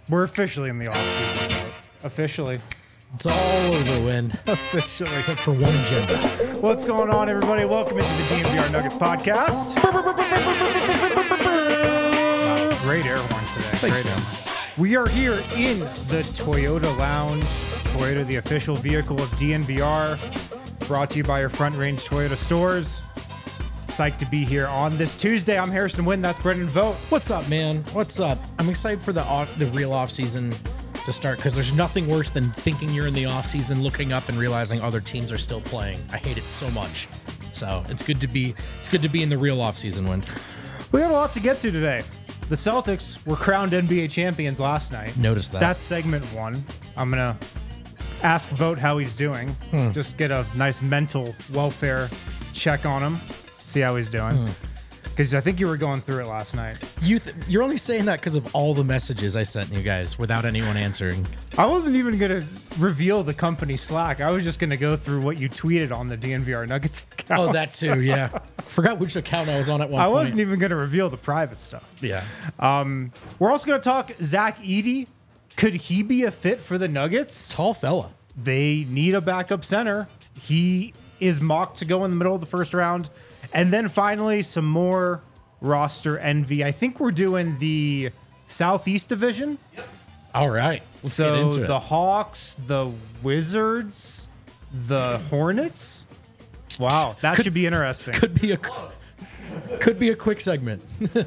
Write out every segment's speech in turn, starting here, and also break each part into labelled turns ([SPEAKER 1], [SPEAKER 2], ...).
[SPEAKER 1] We're officially in the offseason. Officially.
[SPEAKER 2] It's all over, Wind.
[SPEAKER 1] Officially.
[SPEAKER 2] Except for one agenda.
[SPEAKER 1] What's going on, everybody? Welcome into the DNVR Nuggets podcast. Wow, great air horns today.
[SPEAKER 2] Thanks,
[SPEAKER 1] Great air horns. We are here in the Toyota Lounge. Toyota, the official vehicle of DNVR. Brought to you by your Front Range Toyota stores. Psyched to be here on this Tuesday. I'm Harrison Wind. That's Brendan Vogt.
[SPEAKER 2] What's up, man? What's up? I'm excited for the real offseason to start because there's nothing worse than thinking you're in the offseason, looking up and realizing other teams are still playing. I hate it so much. So it's good to be in the real offseason, Wind.
[SPEAKER 1] We got a lot to get to today. The Celtics were crowned NBA champions last night.
[SPEAKER 2] Noticed that.
[SPEAKER 1] That's segment one. I'm going to ask Vogt how he's doing. Just get a nice mental welfare check on him. See how he's doing. Because I think you were going through it last night.
[SPEAKER 2] You're only saying that because of all the messages I sent you guys without anyone answering.
[SPEAKER 1] I wasn't even going to reveal the company Slack. I was just going to go through what you tweeted on the DNVR Nuggets account.
[SPEAKER 2] Oh, that too, yeah. Forgot which account I was on at one
[SPEAKER 1] I
[SPEAKER 2] point.
[SPEAKER 1] wasn't even going to reveal the private stuff.
[SPEAKER 2] Yeah.
[SPEAKER 1] We're also going to talk Zach Edey. Could he be a fit for the Nuggets?
[SPEAKER 2] Tall fella.
[SPEAKER 1] They need a backup center. He is mocked to go in the middle of the first round. And then finally, some more roster envy. I think we're doing the Southeast Division.
[SPEAKER 2] All right. Let's get
[SPEAKER 1] So
[SPEAKER 2] into it.
[SPEAKER 1] the Hawks, the Wizards, the Hornets. Wow, that should be interesting.
[SPEAKER 2] Could be a quick segment.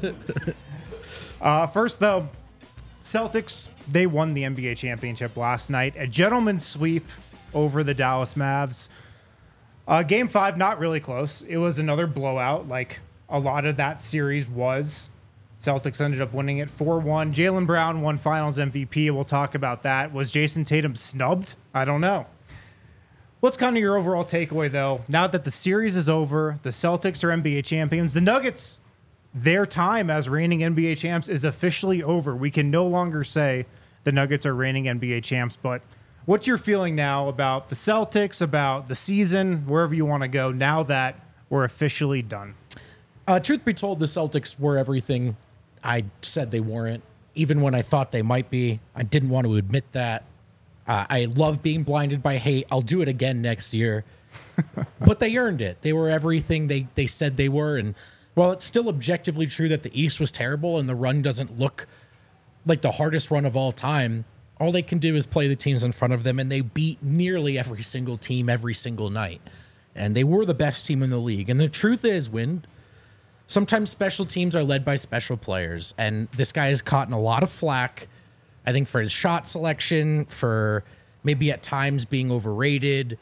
[SPEAKER 1] First, though, Celtics, they won the NBA championship last night. A gentleman's sweep over the Dallas Mavs. Game 5, not really close. It was another blowout, like a lot of that series was. Celtics ended up winning it 4-1. Jaylen Brown won Finals MVP. We'll talk about that. Was Jason Tatum snubbed? I don't know. What's kind of your overall takeaway, though? Now that the series is over, the Celtics are NBA champions. The Nuggets, their time as reigning NBA champs is officially over. We can no longer say the Nuggets are reigning NBA champs, but what's your feeling now about the Celtics, about the season, wherever you want to go, now that we're officially done?
[SPEAKER 2] Truth be told, the Celtics were everything I said they weren't, even when I thought they might be. I didn't want to admit that. I love being blinded by hate. I'll do it again next year. But they earned it. They were everything they said they were. And while it's still objectively true that the East was terrible and the run doesn't look like the hardest run of all time, all they can do is play the teams in front of them, and they beat nearly every single team every single night. And they were the best team in the league. And the truth is, Wind, sometimes special teams are led by special players. And this guy has caught a lot of flack, I think, for his shot selection, for maybe at times being overrated.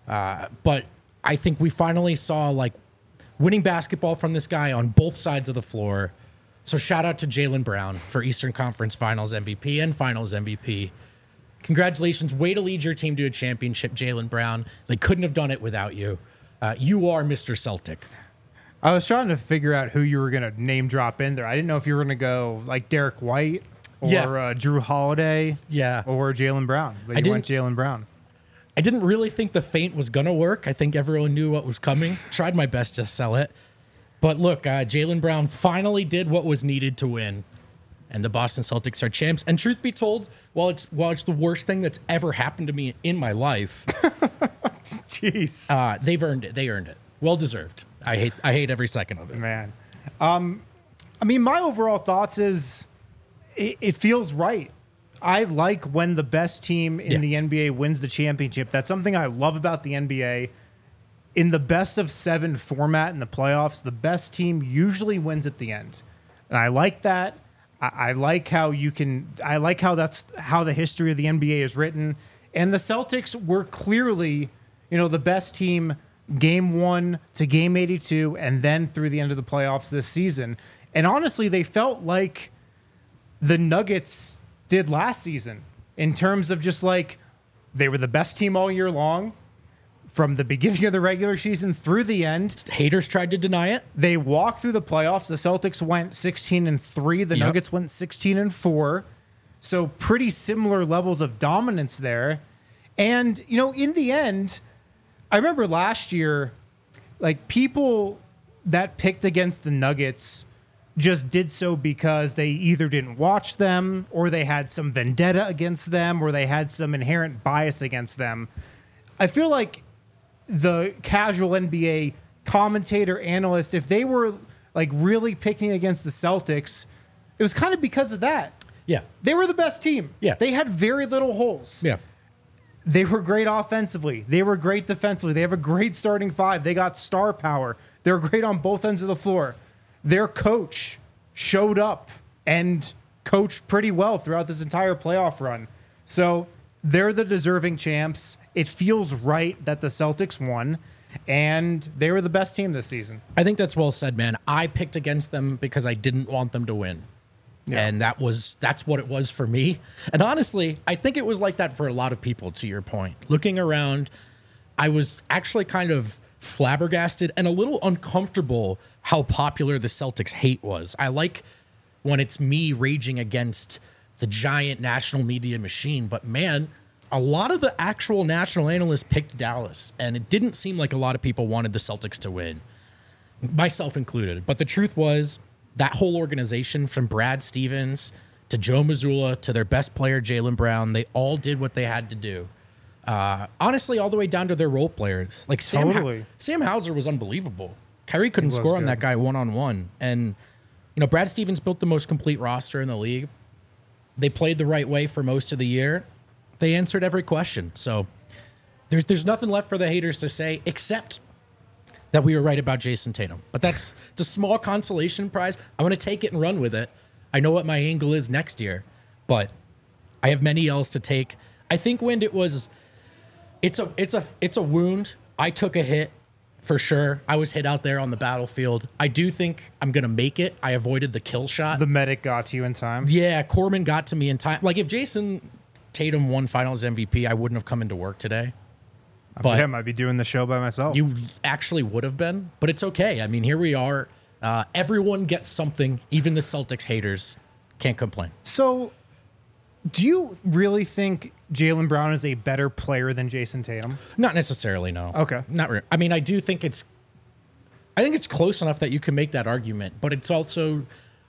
[SPEAKER 2] But I think we finally saw like winning basketball from this guy on both sides of the floor. So shout out to Jaylen Brown for Eastern Conference Finals MVP and Finals MVP. Congratulations. Way to lead your team to a championship, Jaylen Brown. They couldn't have done it without you. You are Mr. Celtic.
[SPEAKER 1] I was trying to figure out who you were going to name drop in there. I didn't know if you were going to go like Derek White or Drew Holiday or Jaylen Brown. But you went Jaylen Brown.
[SPEAKER 2] I didn't really think the feint was going to work. I think everyone knew what was coming. Tried my best to sell it. But look, Jaylen Brown finally did what was needed to win, and the Boston Celtics are champs. And truth be told, while it's the worst thing that's ever happened to me in my life,
[SPEAKER 1] jeez,
[SPEAKER 2] they've earned it. They earned it. Well deserved. I hate every second of it.
[SPEAKER 1] Man, I mean, my overall thoughts is it feels right. I like when the best team in the NBA wins the championship. That's something I love about the NBA. In the best of 7 format in the playoffs, the best team usually wins at the end. And I like that. I like how that's how the history of the NBA is written. And the Celtics were clearly, the best team game 1 to game 82 and then through the end of the playoffs this season. And honestly, they felt like the Nuggets did last season in terms of just like they were the best team all year long. From the beginning of the regular season through the end.
[SPEAKER 2] Haters tried to deny it.
[SPEAKER 1] They walked through the playoffs. The Celtics went 16-3. The Nuggets went 16-4. So pretty similar levels of dominance there. And, in the end, I remember last year, like people that picked against the Nuggets just did so because they either didn't watch them or they had some vendetta against them or they had some inherent bias against them. I feel like the casual NBA commentator, analyst, if they were like really picking against the Celtics, it was kind of because of that.
[SPEAKER 2] Yeah.
[SPEAKER 1] They were the best team.
[SPEAKER 2] Yeah.
[SPEAKER 1] They had very little holes.
[SPEAKER 2] Yeah.
[SPEAKER 1] They were great offensively. They were great defensively. They have a great starting five. They got star power. They were great on both ends of the floor. Their coach showed up and coached pretty well throughout this entire playoff run. So they're the deserving champs. It feels right that the Celtics won, and they were the best team this season.
[SPEAKER 2] I think that's well said, man. I picked against them because I didn't want them to win. Yeah. And that's what it was for me. And honestly, I think it was like that for a lot of people, to your point. Looking around, I was actually kind of flabbergasted and a little uncomfortable how popular the Celtics hate was. I like when it's me raging against the giant national media machine, but man, a lot of the actual national analysts picked Dallas, and it didn't seem like a lot of people wanted the Celtics to win, myself included. But the truth was, that whole organization, from Brad Stevens to Joe Mazzulla to their best player, Jaylen Brown, they all did what they had to do. Honestly, all the way down to their role players. Like Sam Hauser was unbelievable. Kyrie couldn't score on that guy one-on-one. And, Brad Stevens built the most complete roster in the league. They played the right way for most of the year. They answered every question. So there's nothing left for the haters to say except that we were right about Jason Tatum. But it's a small consolation prize. I want to take it and run with it. I know what my angle is next year, but I have many L's to take. I think, Wind, it's a wound. I took a hit for sure. I was hit out there on the battlefield. I do think I'm going to make it. I avoided the kill shot.
[SPEAKER 1] The medic got to you in time.
[SPEAKER 2] Yeah, Corman got to me in time. Like, if Jason Tatum won Finals MVP, I wouldn't have come into work today.
[SPEAKER 1] But him, I'd be doing the show by myself.
[SPEAKER 2] You actually would have been, but it's okay. I mean, here we are. Everyone gets something. Even the Celtics haters can't complain.
[SPEAKER 1] So, do you really think Jaylen Brown is a better player than Jason Tatum?
[SPEAKER 2] Not necessarily, no.
[SPEAKER 1] Okay.
[SPEAKER 2] Not really. I mean, I think it's close enough that you can make that argument, but it's also,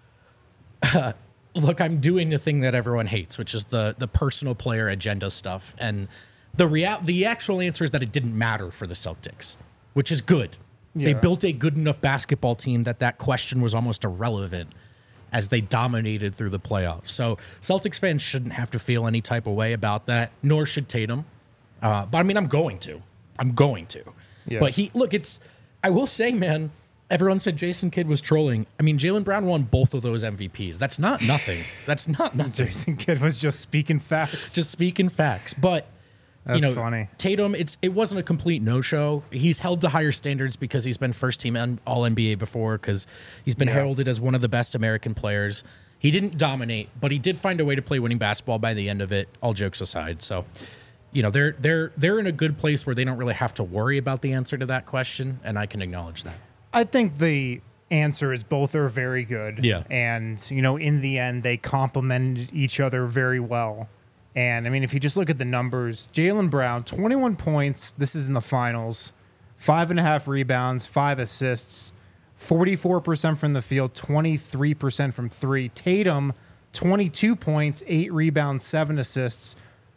[SPEAKER 2] look, I'm doing the thing that everyone hates, which is the personal player agenda stuff. And the actual answer is that it didn't matter for the Celtics, which is good. Yeah. They built a good enough basketball team that question was almost irrelevant as they dominated through the playoffs. So Celtics fans shouldn't have to feel any type of way about that, nor should Tatum. But I mean, I'm going to. Yeah. But I will say, man, everyone said Jason Kidd was trolling. I mean, Jaylen Brown won both of those MVPs. That's not nothing. That's not nothing.
[SPEAKER 1] Jason Kidd was just speaking facts.
[SPEAKER 2] But
[SPEAKER 1] that's funny.
[SPEAKER 2] Tatum, it wasn't a complete no-show. He's held to higher standards because he's been first-team All-NBA before, because he's been heralded as one of the best American players. He didn't dominate, but he did find a way to play winning basketball by the end of it, all jokes aside. So, they're in a good place where they don't really have to worry about the answer to that question, and I can acknowledge that.
[SPEAKER 1] I think the answer is both are very good.
[SPEAKER 2] Yeah.
[SPEAKER 1] And, in the end, they complemented each other very well. And, I mean, if you just look at the numbers, Jaylen Brown, 21 points. This is in the finals. 5.5 rebounds, 5 assists, 44% from the field, 23% from three. Tatum, 22 points, 8 rebounds, 7 assists,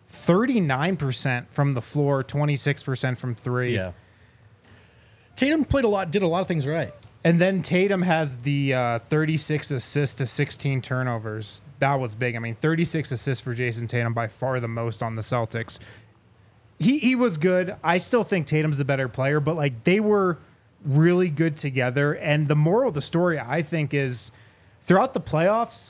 [SPEAKER 1] 39% from the floor, 26% from three.
[SPEAKER 2] Yeah. Tatum did a lot of things right.
[SPEAKER 1] And then Tatum has the 36 assists to 16 turnovers. That was big. I mean, 36 assists for Jason Tatum, by far the most on the Celtics. He was good. I still think Tatum's the better player, but they were really good together. And the moral of the story, I think, is throughout the playoffs,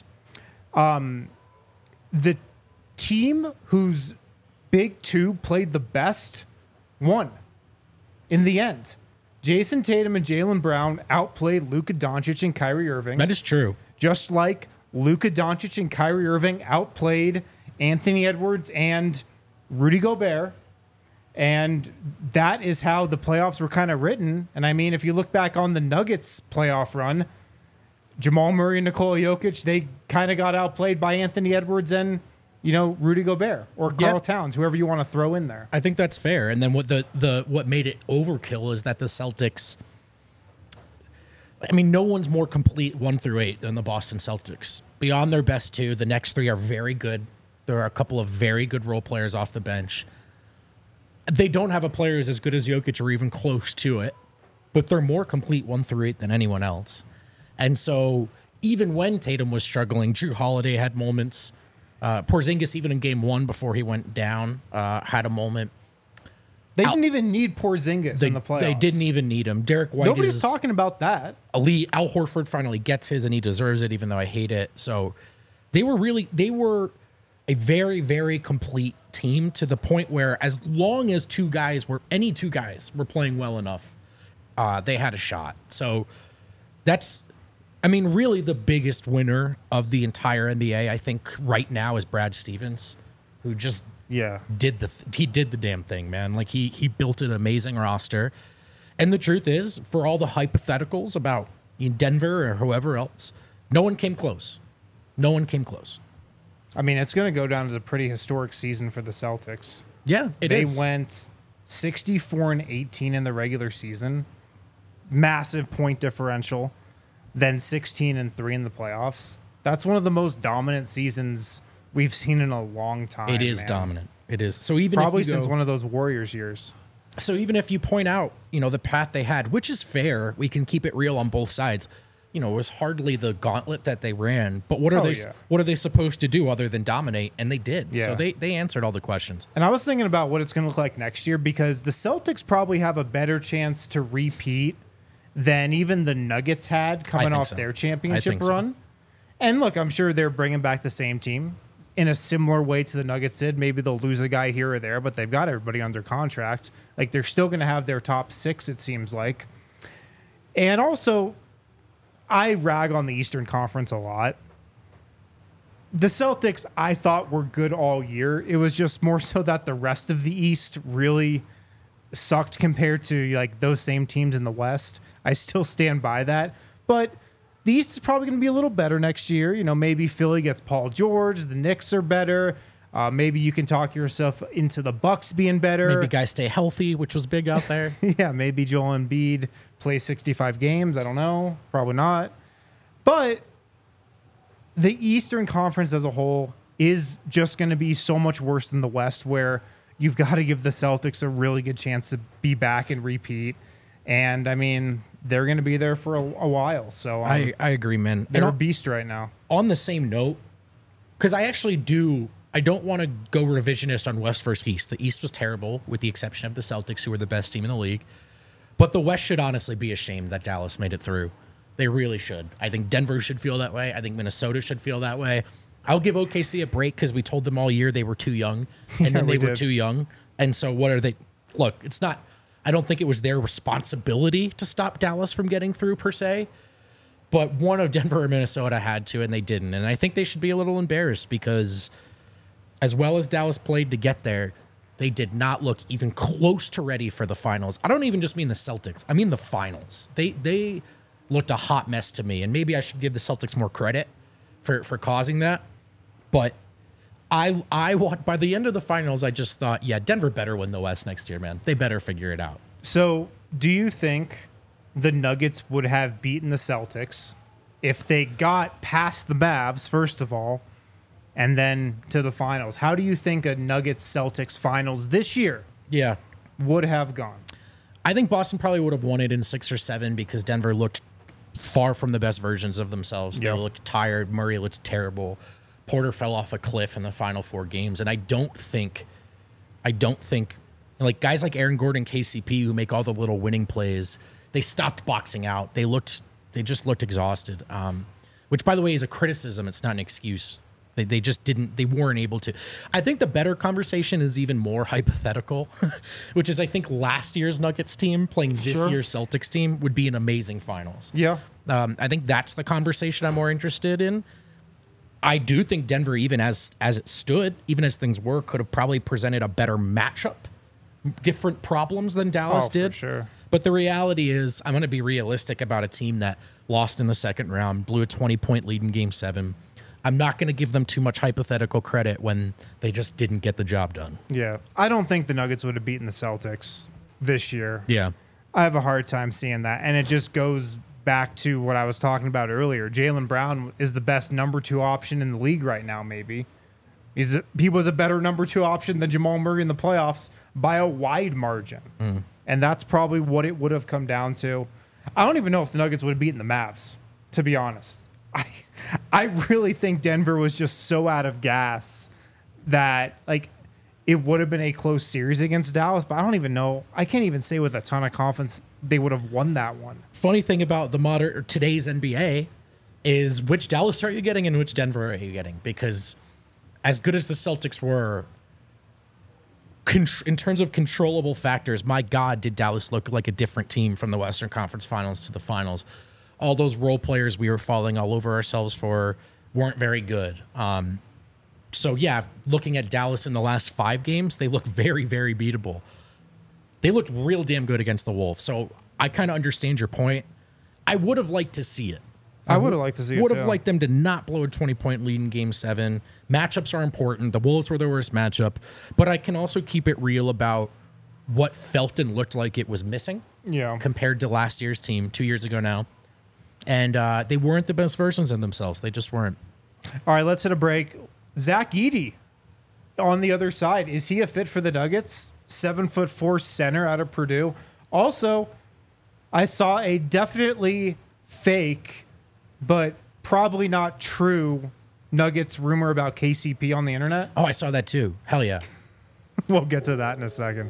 [SPEAKER 1] the team whose big two played the best won in the end. Jason Tatum and Jaylen Brown outplayed Luka Doncic and Kyrie Irving.
[SPEAKER 2] That is true.
[SPEAKER 1] Just like Luka Doncic and Kyrie Irving outplayed Anthony Edwards and Rudy Gobert. And that is how the playoffs were kind of written. And I mean, if you look back on the Nuggets playoff run, Jamal Murray and Nikola Jokic, they kind of got outplayed by Anthony Edwards and, Rudy Gobert or Karl Towns, whoever you want to throw in there.
[SPEAKER 2] I think that's fair. And then what made it overkill is that the Celtics, I mean, no one's more complete 1 through 8 than the Boston Celtics. Beyond their best 2, the next 3 are very good. There are a couple of very good role players off the bench. They don't have a player who's as good as Jokic or even close to it, but they're more complete 1 through 8 than anyone else. And so even when Tatum was struggling, Drew Holiday had moments. Porzingis, even in game 1 before he went down, had a moment.
[SPEAKER 1] They didn't even need Porzingis in the playoffs.
[SPEAKER 2] They didn't even need him. Derek White
[SPEAKER 1] Nobody's talking about that.
[SPEAKER 2] elite. Al Horford finally gets his, and he deserves it, even though I hate it. So they were a very, very complete team, to the point where as long as any two guys were playing well enough, they had a shot. So that's, I mean, really the biggest winner of the entire NBA, I think, right now is Brad Stevens, who just did the damn thing, man. Like he built an amazing roster. And the truth is, for all the hypotheticals about Denver or whoever else, no one came close. No one came close.
[SPEAKER 1] I mean, it's going to go down as a pretty historic season for the Celtics.
[SPEAKER 2] Yeah,
[SPEAKER 1] they went 64-18 in the regular season, massive point differential, then 16-3 in the playoffs. That's one of the most dominant seasons we've seen in a long time.
[SPEAKER 2] It is dominant. It is. So even
[SPEAKER 1] probably
[SPEAKER 2] if you
[SPEAKER 1] since one of those Warriors years.
[SPEAKER 2] So even if you point out, the path they had, which is fair, we can keep it real on both sides. It was hardly the gauntlet that they ran. But what are they supposed to do other than dominate? And they did. Yeah. So they answered all the questions.
[SPEAKER 1] And I was thinking about what it's going to look like next year, because the Celtics probably have a better chance to repeat than even the Nuggets had coming off their championship run. So. And look, I'm sure they're bringing back the same team in a similar way to the Nuggets did. Maybe they'll lose a guy here or there, but they've got everybody under contract. Like, they're still going to have their top 6, it seems like. And also, I rag on the Eastern Conference a lot. The Celtics, I thought, were good all year. It was just more so that the rest of the East really sucked compared to like those same teams in the West. I still stand by that. But the East is probably going to be a little better next year. Maybe Philly gets Paul George. The Knicks are better. Maybe you can talk yourself into the Bucks being better.
[SPEAKER 2] Maybe guys stay healthy, which was big out there.
[SPEAKER 1] Yeah, maybe Joel Embiid plays 65 games. I don't know. Probably not. But the Eastern Conference as a whole is just going to be so much worse than the West, where you've got to give the Celtics a really good chance to be back and repeat. And, I mean, they're going to be there for a while. So
[SPEAKER 2] I agree, man.
[SPEAKER 1] They're a beast right now.
[SPEAKER 2] On the same note, because I don't want to go revisionist on West versus East. The East was terrible, with the exception of the Celtics, who were the best team in the league. But the West should honestly be ashamed that Dallas made it through. They really should. I think Denver should feel that way. I think Minnesota should feel that way. I'll give OKC a break because we told them all year they were too young, and then they were too young. And so what are they? Look, it's not. I don't think it was their responsibility to stop Dallas from getting through per se, but one of Denver or Minnesota had to, and they didn't. And I think they should be a little embarrassed, because as well as Dallas played to get there, they did not look even close to ready for the finals. I don't even just mean the Celtics. I mean the finals. They looked a hot mess to me, and maybe I should give the Celtics more credit for causing that. But I by the end of the finals, I just thought, yeah, Denver better win the West next year, man. They better figure it out.
[SPEAKER 1] So do you think the Nuggets would have beaten the Celtics if they got past the Mavs, first of all, and then to the finals? How do you think a Nuggets-Celtics finals this year would have gone?
[SPEAKER 2] I think Boston probably would have won it in 6 or 7, because Denver looked far from the best versions of themselves. They looked tired. Murray looked terrible. Porter fell off a cliff in the final 4 games. And I don't think like guys like Aaron Gordon, KCP, who make all the little winning plays, they stopped boxing out. They just looked exhausted. Which, by the way, is a criticism. It's not an excuse. They just didn't. They weren't able to. I think the better conversation is even more hypothetical, which is, I think, last year's Nuggets team playing this year's Celtics team would be an amazing finals.
[SPEAKER 1] Yeah.
[SPEAKER 2] I think that's the conversation I'm more interested in. I do think Denver, even as it stood, even as things were, could have probably presented a better matchup, different problems than Dallas did.
[SPEAKER 1] For sure.
[SPEAKER 2] But the reality is, I'm going to be realistic about a team that lost in the second round, blew a 20-point lead in Game 7. I'm not going to give them too much hypothetical credit when they just didn't get the job done.
[SPEAKER 1] Yeah. I don't think the Nuggets would have beaten the Celtics this year.
[SPEAKER 2] Yeah.
[SPEAKER 1] I have a hard time seeing that. And it just goes back to what I was talking about earlier. Jaylen Brown is the best number 2 option in the league right now, maybe. He was a better number 2 option than Jamal Murray in the playoffs by a wide margin. And that's probably what it would have come down to. I don't even know if the Nuggets would have beaten the Mavs, to be honest. I really think Denver was just so out of gas that, like, it would have been a close series against Dallas, but I don't even know. I can't even say with a ton of confidence they would have won that one.
[SPEAKER 2] Funny thing about today's NBA is which Dallas are you getting and which Denver are you getting? Because as good as the Celtics were, in terms of controllable factors, my God, did Dallas look like a different team from the Western Conference Finals to the Finals. All those role players we were falling all over ourselves for weren't very good. So, yeah, looking at Dallas in the last 5 games, they look very, very beatable. They looked real damn good against the Wolves. So I kind of understand your point. I would have liked to see it.
[SPEAKER 1] I would have liked to see it,
[SPEAKER 2] would have liked them to not blow a 20-point lead in Game 7. Matchups are important. The Wolves were the worst matchup. But I can also keep it real about what felt and looked like it was missing compared to last year's team, 2 years ago now. And they weren't the best versions of themselves. They just weren't.
[SPEAKER 1] All right, let's hit a break. Zach Edey on the other side. Is he a fit for the Nuggets? 7'4" center out of Purdue. Also, I saw a definitely fake, but probably not true Nuggets rumor about KCP on the internet.
[SPEAKER 2] Oh, I saw that too. Hell yeah.
[SPEAKER 1] We'll get to that in a second.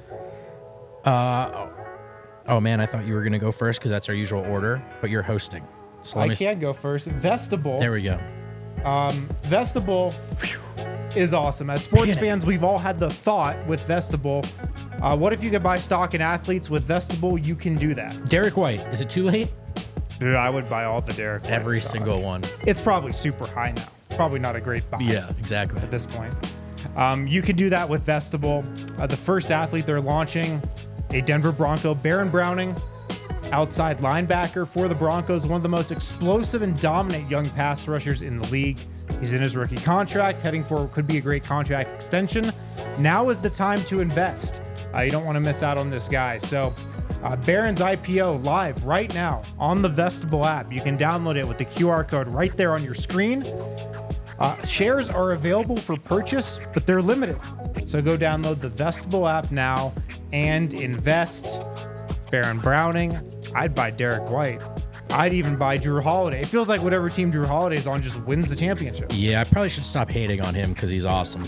[SPEAKER 2] Oh, man, I thought you were going to go first because that's our usual order, but you're hosting. So
[SPEAKER 1] I can go first. Vestibule.
[SPEAKER 2] There we go.
[SPEAKER 1] Vestibule is awesome. As sports fans, we've all had the thought with Vestibule, what if you could buy stock in athletes with Vestibule? You can do that.
[SPEAKER 2] Derek White, is it too late?
[SPEAKER 1] Dude, I would buy all the Derek White
[SPEAKER 2] Every
[SPEAKER 1] stock.
[SPEAKER 2] single one.
[SPEAKER 1] It's probably super high now. Probably not a great buy.
[SPEAKER 2] Yeah, exactly.
[SPEAKER 1] At this point. You can do that with Vestibule. The first athlete they're launching, a Denver Bronco, Baron Browning, outside linebacker for the Broncos, one of the most explosive and dominant young pass rushers in the league. He's in his rookie contract, heading for what could be a great contract extension. Now is the time to invest. You don't want to miss out on this guy. So Baron's IPO live right now on the Vestibule app. You can download it with the QR code right there on your screen. Shares are available for purchase, but they're limited. So go download the Vestibule app now and invest. Baron Browning. I'd buy Derek White. I'd even buy Drew Holiday. It feels like whatever team Drew Holiday's on just wins the championship.
[SPEAKER 2] Yeah, I probably should stop hating on him because he's awesome.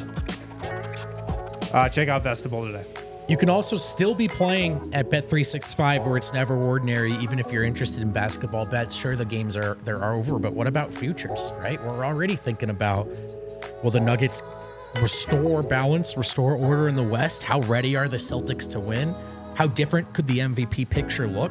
[SPEAKER 1] Check out Vestibule today.
[SPEAKER 2] You can also still be playing at Bet365 where it's never ordinary, even if you're interested in basketball bets. Sure, the games are over, but what about futures, right? We're already thinking about, will the Nuggets restore balance, restore order in the West? How ready are the Celtics to win? How different could the MVP picture look?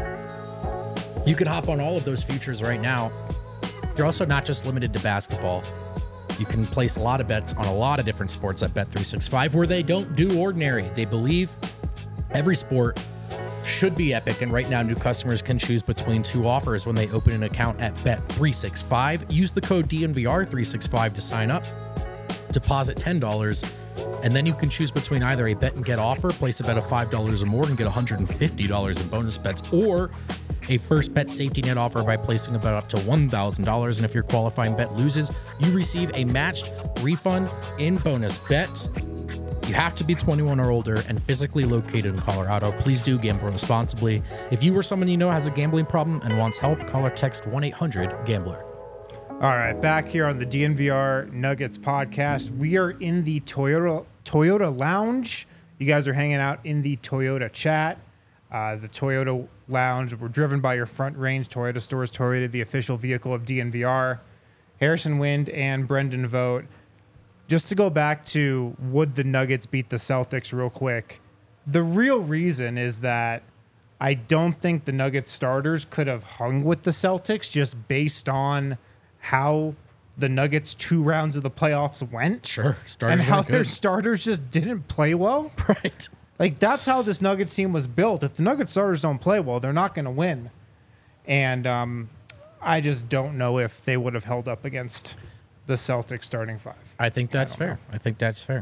[SPEAKER 2] You can hop on all of those futures right now. You're also not just limited to basketball. You can place a lot of bets on a lot of different sports at Bet365 where they don't do ordinary. They believe every sport should be epic, and right now new customers can choose between 2 offers when they open an account at Bet365. Use the code DNVR365 to sign up. Deposit $10, and then you can choose between either a bet and get offer, place a bet of $5 or more and get $150 in bonus bets, or a first bet safety net offer by placing a bet up to $1,000. And if your qualifying bet loses, you receive a matched refund in bonus bets. You have to be 21 or older and physically located in Colorado. Please do gamble responsibly. If you or someone you know has a gambling problem and wants help, call or text 1-800-GAMBLER.
[SPEAKER 1] All right, back here on the DNVR Nuggets podcast. We are in the Toyota Lounge. You guys are hanging out in the Toyota chat. The Toyota Lounge, we're driven by your Front Range Toyota stores. Toyota, the official vehicle of DNVR. Harrison Wind and Brendan Vogt. Just to go back to would the Nuggets beat the Celtics real quick, the real reason is that I don't think the Nuggets starters could have hung with the Celtics just based on how the Nuggets 2 rounds of the playoffs went.
[SPEAKER 2] Sure.
[SPEAKER 1] And how their starters just didn't play well.
[SPEAKER 2] Right.
[SPEAKER 1] Like, that's how this Nuggets team was built. If the Nuggets starters don't play well, they're not going to win. And I just don't know if they would have held up against the Celtics starting 5.
[SPEAKER 2] I think that's fair. I think that's fair.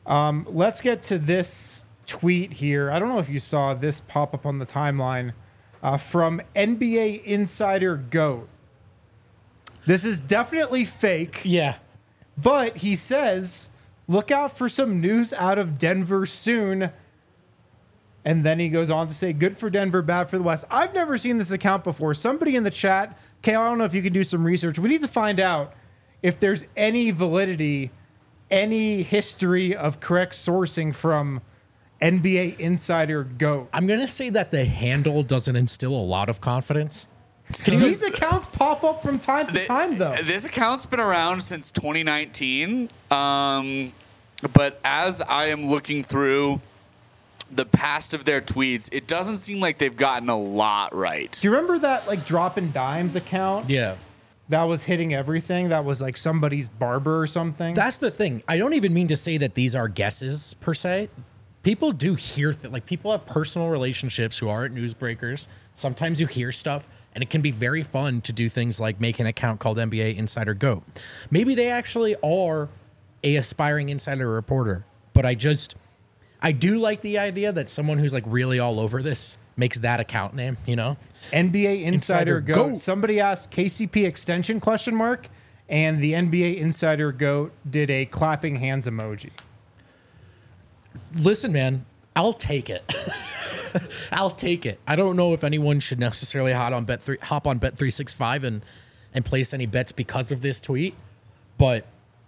[SPEAKER 1] Let's get to this tweet here. I don't know if you saw this pop up on the timeline. from NBA Insider GOAT. This is definitely fake,
[SPEAKER 2] Yeah.
[SPEAKER 1] but he says, look out for some news out of Denver soon. And then he goes on to say, good for Denver, bad for the West. I've never seen this account before. Somebody in the chat, okay, I don't know if you can do some research. We need to find out if there's any validity, any history of correct sourcing from NBA Insider GOAT.
[SPEAKER 2] I'm going to say that the handle doesn't instill a lot of confidence.
[SPEAKER 1] These accounts pop up from time to time, though.
[SPEAKER 3] This account's been around since 2019. But as I am looking through the past of their tweets, it doesn't seem like they've gotten a lot right.
[SPEAKER 1] Do you remember that like Dropping Dimes account?
[SPEAKER 2] Yeah.
[SPEAKER 1] That was hitting everything. That was like somebody's barber or something.
[SPEAKER 2] That's the thing. I don't even mean to say that these are guesses per se. People do hear like people have personal relationships who aren't newsbreakers. Sometimes you hear stuff, and it can be very fun to do things like make an account called NBA Insider GOAT. Maybe they actually are a aspiring insider reporter, but I do like the idea that someone who's like really all over this makes that account name, you know?
[SPEAKER 1] NBA Insider
[SPEAKER 2] Insider
[SPEAKER 1] GOAT.
[SPEAKER 2] GOAT.
[SPEAKER 1] Somebody asked KCP extension ? And the NBA Insider GOAT did a clapping hands emoji.
[SPEAKER 2] Listen, man, I'll take it. I'll take it. I don't know if anyone should necessarily hop on Bet365 and place any bets because of this tweet, but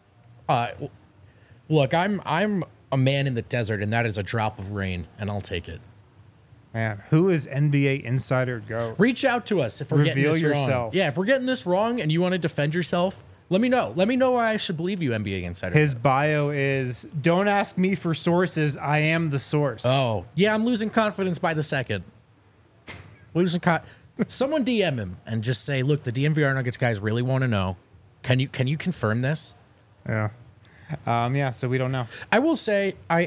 [SPEAKER 2] look, I'm a man in the desert, and that is a drop of rain, and I'll take it.
[SPEAKER 1] Man, who is NBA Insider GOAT?
[SPEAKER 2] Reach out to us if we're getting
[SPEAKER 1] Reveal
[SPEAKER 2] this
[SPEAKER 1] yourself.
[SPEAKER 2] wrong. Yeah, if we're getting this wrong and you want to defend yourself, let me know. Let me know why I should believe you, NBA Insider.
[SPEAKER 1] His bio is, don't ask me for sources. I am the source.
[SPEAKER 2] Oh, yeah, I'm losing confidence by the second. Someone DM him and just say, look, the DNVR Nuggets guys really want to know. Can you confirm this?
[SPEAKER 1] Yeah. So we don't know.
[SPEAKER 2] I will say I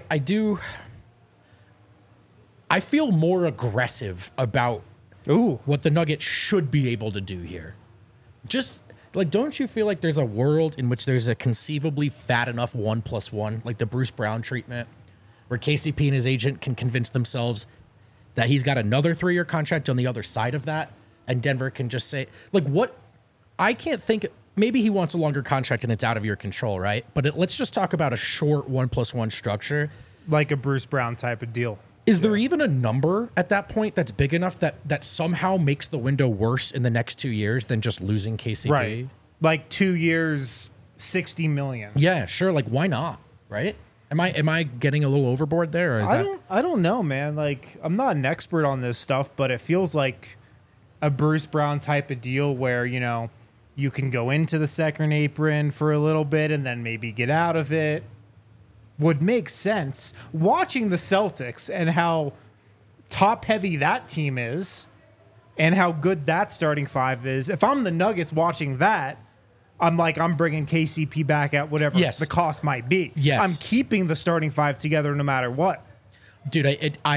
[SPEAKER 2] feel more aggressive about
[SPEAKER 1] Ooh.
[SPEAKER 2] what the Nuggets should be able to do here. Just like, don't you feel like there's a world in which there's a conceivably fat enough 1+1, like the Bruce Brown treatment, where KCP and his agent can convince themselves that he's got another 3-year contract on the other side of that, and Denver can just say, like, what? I can't think. Maybe he wants a longer contract and it's out of your control, right? But let's just talk about a short 1+1 structure.
[SPEAKER 1] Like a Bruce Brown type of deal.
[SPEAKER 2] Is there even a number at that point that's big enough that somehow makes the window worse in the next 2 years than just losing KCP?
[SPEAKER 1] Right. Like 2 years, $60 million.
[SPEAKER 2] Yeah, sure. Like, why not? Right? Am I getting a little overboard there? Or is
[SPEAKER 1] I don't know, man. Like, I'm not an expert on this stuff, but it feels like a Bruce Brown type of deal where, you know, you can go into the second apron for a little bit and then maybe get out of it. Would make sense. Watching the Celtics and how top heavy that team is and how good that starting five is. If I'm the Nuggets watching that, I'm bringing KCP back at whatever the cost might be.
[SPEAKER 2] Yes.
[SPEAKER 1] I'm keeping the starting five together no matter what.
[SPEAKER 2] Dude,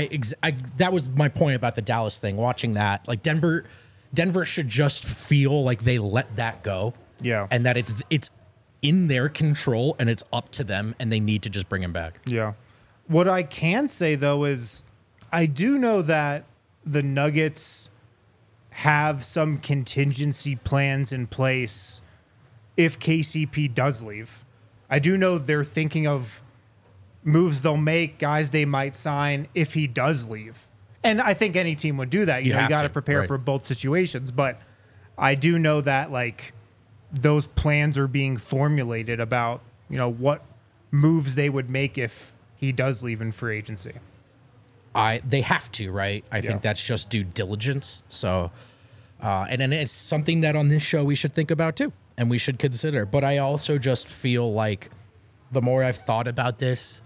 [SPEAKER 2] that was my point about the Dallas thing. Watching that, like Denver should just feel like they let that go.
[SPEAKER 1] Yeah.
[SPEAKER 2] And that it's in their control and it's up to them and they need to just bring him back.
[SPEAKER 1] Yeah. What I can say, though, is I do know that the Nuggets have some contingency plans in place if KCP does leave. I do know they're thinking of moves they'll make, guys they might sign if he does leave. And I think any team would do that. You got to prepare for both situations. But I do know that, like, those plans are being formulated about, you know, what moves they would make if he does leave in free agency.
[SPEAKER 2] They have to, right? I think that's just due diligence. So, and then it's something that on this show we should think about too, and we should consider. But I also just feel like the more I've thought about this,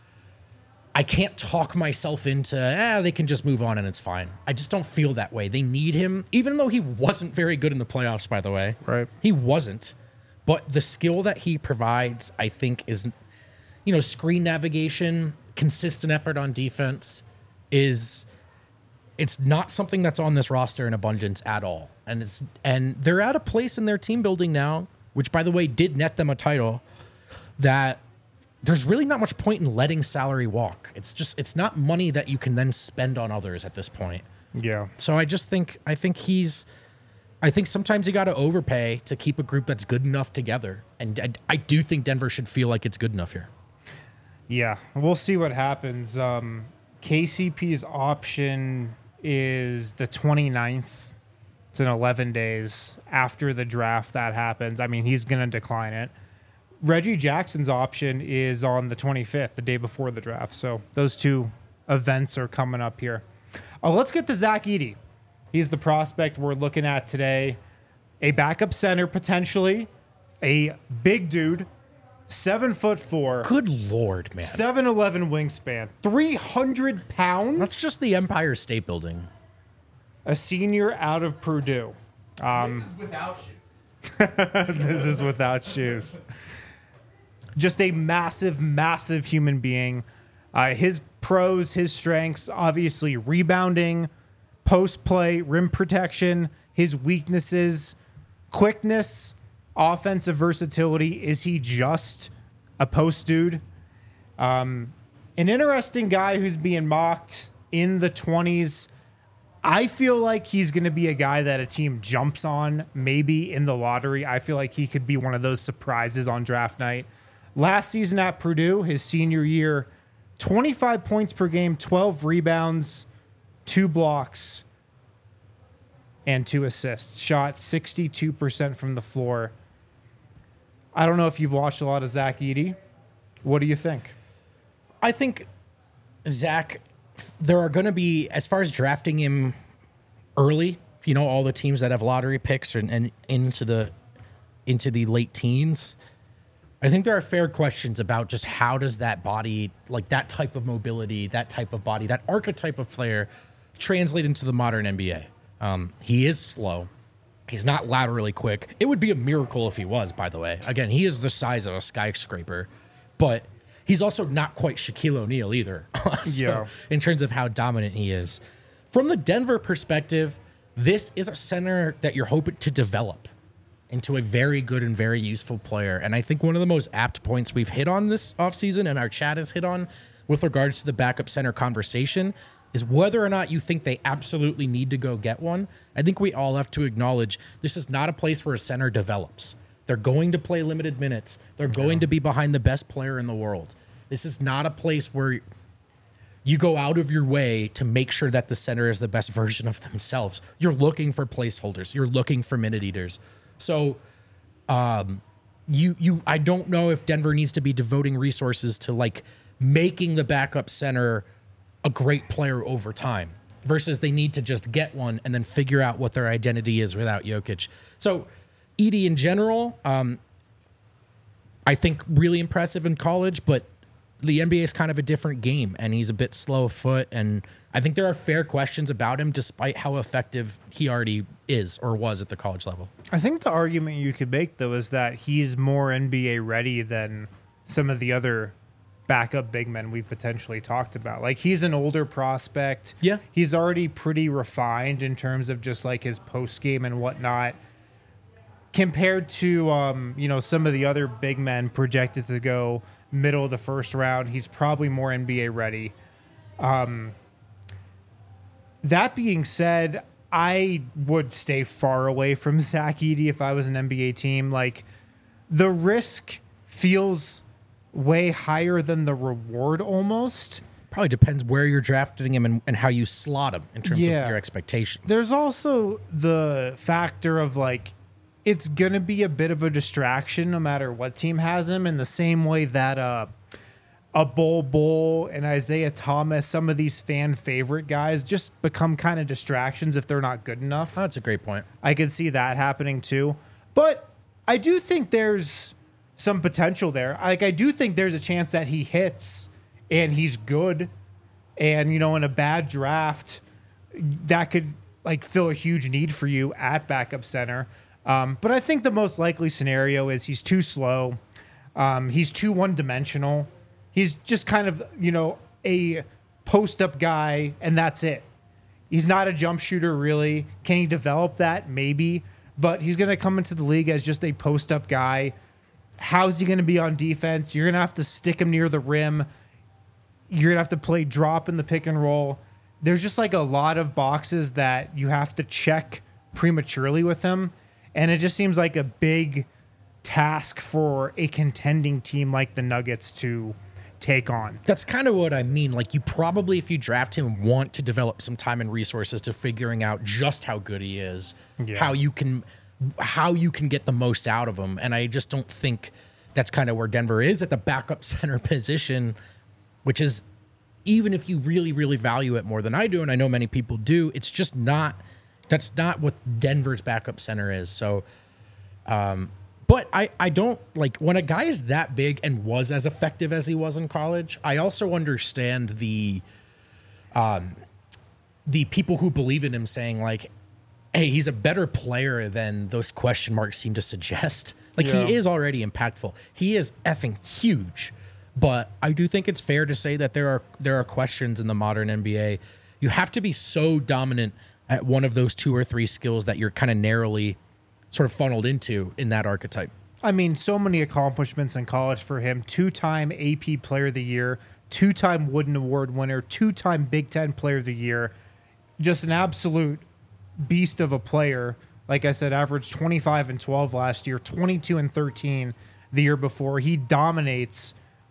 [SPEAKER 2] I can't talk myself into, they can just move on and it's fine. I just don't feel that way. They need him, even though he wasn't very good in the playoffs, by the way.
[SPEAKER 1] Right.
[SPEAKER 2] He wasn't. But the skill that he provides, I think, is, you know, screen navigation, consistent effort on defense it's not something that's on this roster in abundance at all. And they're at a place in their team building now, which, by the way, did net them a title, that there's really not much point in letting salary walk. It's not money that you can then spend on others at this point.
[SPEAKER 1] Yeah.
[SPEAKER 2] So I think sometimes you got to overpay to keep a group that's good enough together. And I do think Denver should feel like it's good enough here.
[SPEAKER 1] Yeah, we'll see what happens. KCP's option is the 29th. It's in 11 days after the draft that happens. I mean, he's going to decline it. Reggie Jackson's option is on the 25th, the day before the draft. So those two events are coming up here. Let's get to Zach Edey. He's the prospect we're looking at today. A backup center, potentially. A big dude. 7'4".
[SPEAKER 2] Good Lord, man.
[SPEAKER 1] 7'11" wingspan. 300 pounds.
[SPEAKER 2] That's just the Empire State Building.
[SPEAKER 1] A senior out of Purdue.
[SPEAKER 3] This is without shoes.
[SPEAKER 1] This is without shoes. Just a massive, massive human being. His pros, his strengths, obviously rebounding, post play, rim protection. His weaknesses, quickness, offensive versatility. Is he just a post dude? An interesting guy who's being mocked in the 20s. I feel like he's going to be a guy that a team jumps on, maybe in the lottery. I feel like he could be one of those surprises on draft night. Last season at Purdue, his senior year, 25 points per game, 12 rebounds, 2 blocks, and 2 assists. Shot 62% from the floor. I don't know if you've watched a lot of Zach Edey. What do you think?
[SPEAKER 2] I think Zach, there are going to be, as far as drafting him early, you know, all the teams that have lottery picks and into the late teens, I think there are fair questions about just how does that body, like that type of mobility, that type of body, that archetype of player translate into the modern NBA. He is slow. He's not laterally quick. It would be a miracle if he was, by the way. Again, he is the size of a skyscraper, but he's also not quite Shaquille O'Neal either. In terms of how dominant he is. From the Denver perspective, this is a center that you're hoping to develop into a very good and very useful player. And I think one of the most apt points we've hit on this offseason and our chat has hit on with regards to the backup center conversation is whether or not you think they absolutely need to go get one. I think we all have to acknowledge this is not a place where a center develops. They're going to play limited minutes. They're going to be behind the best player in the world. This is not a place where you go out of your way to make sure that the center is the best version of themselves. You're looking for placeholders. You're looking for minute eaters. So I don't know if Denver needs to be devoting resources to like making the backup center a great player over time versus they need to just get one and then figure out what their identity is without Jokic. So Edey in general, I think really impressive in college, but the NBA is kind of a different game and he's a bit slow of foot. And I think there are fair questions about him despite how effective he already is or was at the college level.
[SPEAKER 1] I think the argument you could make, though, is that he's more NBA ready than some of the other backup big men we've potentially talked about. Like, he's an older prospect.
[SPEAKER 2] Yeah.
[SPEAKER 1] He's already pretty refined in terms of just like his post game and whatnot. Compared to, some of the other big men projected to go middle of the first round, he's probably more NBA ready. That being said, I would stay far away from Zach Edey if I was an NBA team. Like, the risk feels way higher than the reward almost.
[SPEAKER 2] Probably depends where you're drafting him and how you slot him in terms of your expectations.
[SPEAKER 1] There's also the factor of like, it's going to be a bit of a distraction no matter what team has him, in the same way that a Bol and Isaiah Thomas, some of these fan favorite guys, just become kind of distractions if they're not good enough.
[SPEAKER 2] Oh, that's a great point.
[SPEAKER 1] I could see that happening too. But I do think there's some potential there. Like, I do think there's a chance that he hits and he's good. And, in a bad draft, that could like fill a huge need for you at backup center. But I think the most likely scenario is he's too slow. He's too one-dimensional. He's just kind of, a post-up guy, and that's it. He's not a jump shooter, really. Can he develop that? Maybe. But he's going to come into the league as just a post-up guy. How's he going to be on defense? You're going to have to stick him near the rim. You're going to have to play drop in the pick and roll. there's just like a lot of boxes that you have to check prematurely with him. And it just seems like a big task for a contending team like the Nuggets to take on.
[SPEAKER 2] That's kind of what I mean. Like, you probably, if you draft him, want to develop some time and resources to figuring out just how good he is, how you can get the most out of him. And I just don't think that's kind of where Denver is at the backup center position, which is, even if you really, really value it more than I do, and I know many people do, it's just not, that's not what Denver's backup center is. So, but I don't, like, when a guy is that big and was as effective as he was in college, I also understand the people who believe in him saying, like, hey, he's a better player than those question marks seem to suggest. Like, he is already impactful. He is effing huge. But I do think it's fair to say that there are questions in the modern NBA. You have to be so dominant at one of those 2 or 3 skills that you're kind of narrowly sort of funneled into in that archetype.
[SPEAKER 1] I mean, so many accomplishments in college for him. 2-time AP Player of the Year, 2-time Wooden Award winner, 2-time Big Ten Player of the Year. Just an absolute beast of a player. Like I said, averaged 25 and 12 last year, 22 and 13 the year before. He dominated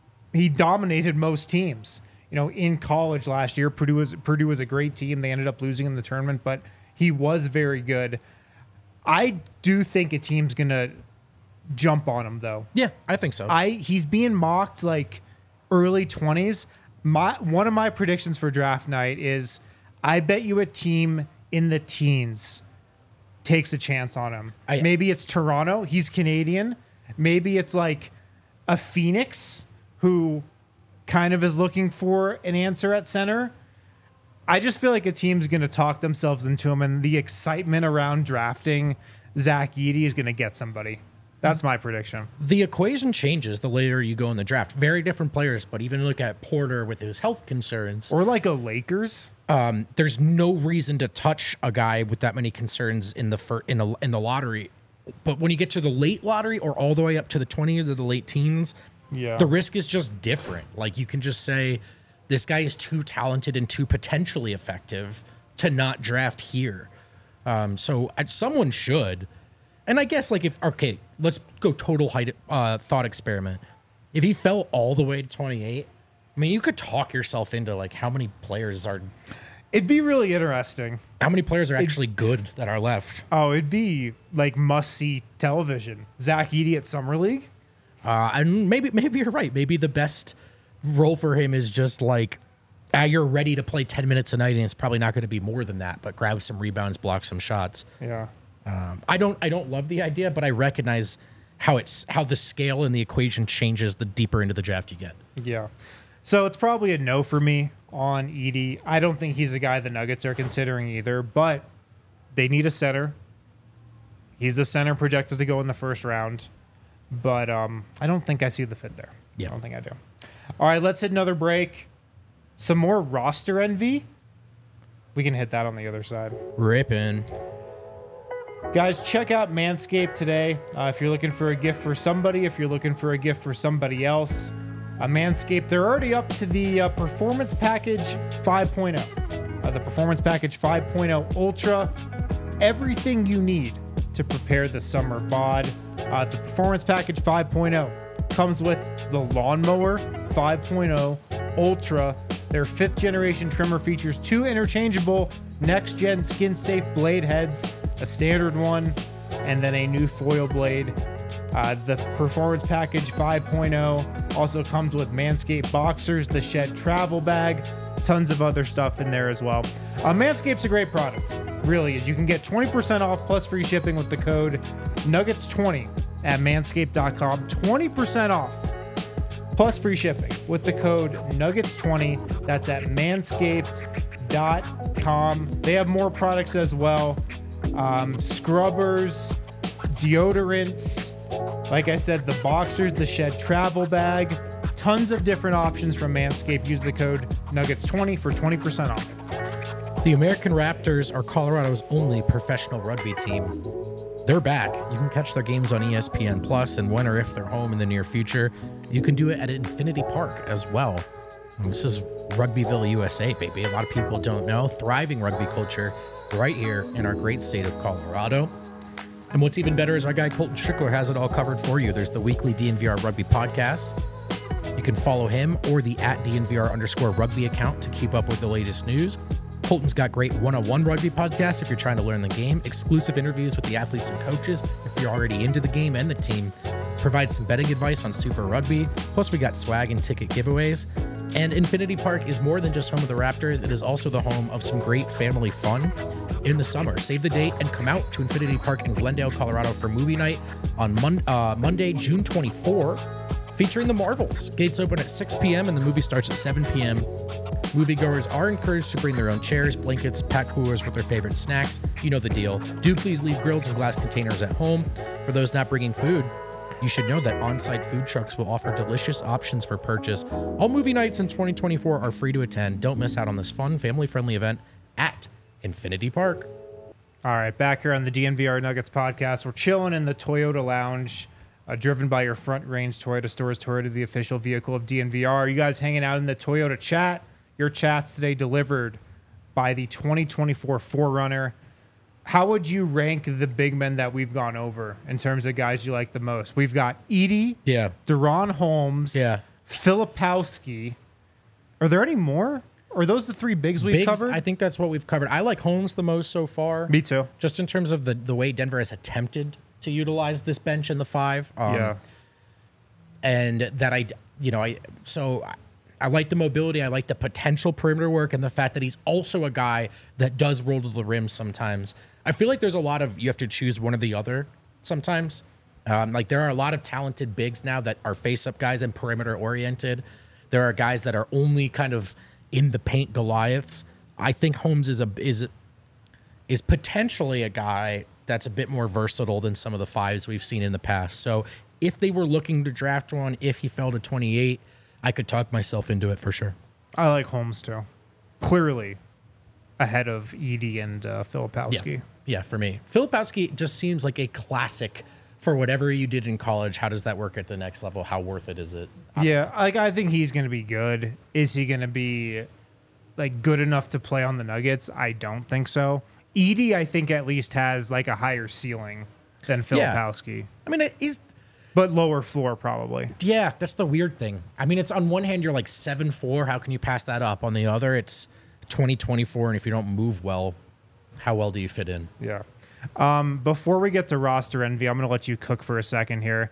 [SPEAKER 1] most teams. You know, in college last year, Purdue was a great team. They ended up losing in the tournament, but he was very good. I do think a team's gonna jump on him, though.
[SPEAKER 2] Yeah, I think so.
[SPEAKER 1] He's being mocked like early 20s. One of my predictions for draft night is I bet you a team in the teens takes a chance on him. Maybe it's Toronto. He's Canadian. Maybe it's like a Phoenix who kind of is looking for an answer at center. I just feel like a team's going to talk themselves into him, and the excitement around drafting Zach Edey is going to get somebody. That's my prediction.
[SPEAKER 2] The equation changes the later you go in the draft. Very different players, but even look at Porter with his health concerns.
[SPEAKER 1] Or like a Lakers.
[SPEAKER 2] There's no reason to touch a guy with that many concerns in the lottery. But when you get to the late lottery or all the way up to the 20s or the late teens, the risk is just different. Like, you can just say, this guy is too talented and too potentially effective to not draft here. So someone should. And I guess, like, let's go total thought experiment. If he fell all the way to 28, I mean, you could talk yourself into, like, how many players are...
[SPEAKER 1] It'd be really interesting.
[SPEAKER 2] How many players are actually good that are left?
[SPEAKER 1] Oh, it'd be, like, must-see television. Zach Edey at Summer League?
[SPEAKER 2] And maybe you're right. Maybe the best role for him is just, like, you're ready to play 10 minutes a night, and it's probably not going to be more than that, but grab some rebounds, block some shots.
[SPEAKER 1] Yeah.
[SPEAKER 2] I don't love the idea, but I recognize how the scale and the equation changes the deeper into the draft you get.
[SPEAKER 1] Yeah. So it's probably a no for me on Edey. I don't think he's a guy the Nuggets are considering either, but they need a center. He's a center projected to go in the first round, but I don't think I see the fit there.
[SPEAKER 2] Yeah.
[SPEAKER 1] I don't think I do. All right, let's hit another break. Some more roster envy. We can hit that on the other side.
[SPEAKER 2] Ripping.
[SPEAKER 1] Guys, check out Manscaped today. If you're looking for a gift for somebody, if you're looking for a gift for somebody else, Manscaped, they're already up to the Performance Package 5.0. The Performance Package 5.0 Ultra. Everything you need to prepare the summer bod. The Performance Package 5.0 comes with the Lawnmower 5.0 Ultra. Their 5th generation trimmer features 2 interchangeable next-gen skin-safe blade heads, a standard one, and then a new foil blade. The Performance Package 5.0 also comes with Manscaped Boxers, the Shed Travel Bag, tons of other stuff in there as well. Manscaped's a great product, really is. You can get 20% off plus free shipping with the code Nuggets20 at manscaped.com. 20% off plus free shipping with the code Nuggets20. That's at manscaped.com. They have more products as well. Scrubbers, deodorants, like I said, the Boxers, the Shed Travel Bag, tons of different options from Manscaped. Use the code Nuggets20 for 20% off.
[SPEAKER 2] The American Raptors are Colorado's only professional rugby team. they're back. You can catch their games on ESPN Plus, and when or if they're home in the near future, you can do it at Infinity Park as well. And this is Rugbyville, USA, baby. A lot of people don't know. Thriving rugby culture right here in our great state of Colorado. And what's even better is our guy Colton Strickler has it all covered for you. There's the weekly DNVR Rugby podcast. You can follow him or the @DNVR_rugby account to keep up with the latest news. Colton's got great one-on-one rugby podcasts if you're trying to learn the game, exclusive interviews with the athletes and coaches if you're already into the game and the team, provides some betting advice on Super Rugby, plus we got swag and ticket giveaways. And Infinity Park is more than just home of the Raptors, it is also the home of some great family fun in the summer. Save the date and come out to Infinity Park in Glendale, Colorado for movie night on Monday, June 24, featuring the Marvels. Gates open at 6 p.m. and the movie starts at 7 p.m. Moviegoers are encouraged to bring their own chairs, blankets, pack coolers with their favorite snacks. You know the deal. Do please leave grills and glass containers at home. For those not bringing food, you should know that on-site food trucks will offer delicious options for purchase. All movie nights in 2024 are free to attend. Don't miss out on this fun, family-friendly event at Infinity Park.
[SPEAKER 1] All right, back here on the DNVR Nuggets podcast. We're chilling in the Toyota Lounge, driven by your Front Range Toyota stores. Toyota, the official vehicle of DNVR. You guys hanging out in the Toyota chat. Your chats today delivered by the 2024 4Runner. How would you rank the big men that we've gone over in terms of guys you like the most? We've got Edey, Deron Holmes, Filipowski. Are there any more? Or are those the three bigs we've covered?
[SPEAKER 2] I think that's what we've covered. I like Holmes the most so far.
[SPEAKER 1] Me too.
[SPEAKER 2] Just in terms of the way Denver has attempted to utilize this bench in the 5. And that I like the mobility. I like the potential perimeter work and the fact that he's also a guy that does roll to the rim sometimes. I feel like there's a lot of, you have to choose one or the other sometimes. Like there are a lot of talented bigs now that are face-up guys and perimeter oriented. There are guys that are only kind of in the paint Goliaths. I think Holmes is potentially a guy that's a bit more versatile than some of the 5s we've seen in the past. So if they were looking to draft one, if he fell to 28, I could talk myself into it for sure.
[SPEAKER 1] I like Holmes too. Clearly ahead of Edey and Filipowski.
[SPEAKER 2] Yeah, for me. Filipowski just seems like a classic for whatever you did in college. How does that work at the next level? How worth it is it?
[SPEAKER 1] I think he's going to be good. Is he going to be like good enough to play on the Nuggets? I don't think so. Edey, I think at least has like a higher ceiling than Filipowski.
[SPEAKER 2] Yeah. I mean,
[SPEAKER 1] but lower floor probably.
[SPEAKER 2] Yeah, that's the weird thing. I mean, it's on one hand, you're like 7'4". How can you pass that up? On the other, it's 2024. And if you don't move well, how well do you fit in?
[SPEAKER 1] Yeah. Before we get to roster envy, I'm going to let you cook for a second here.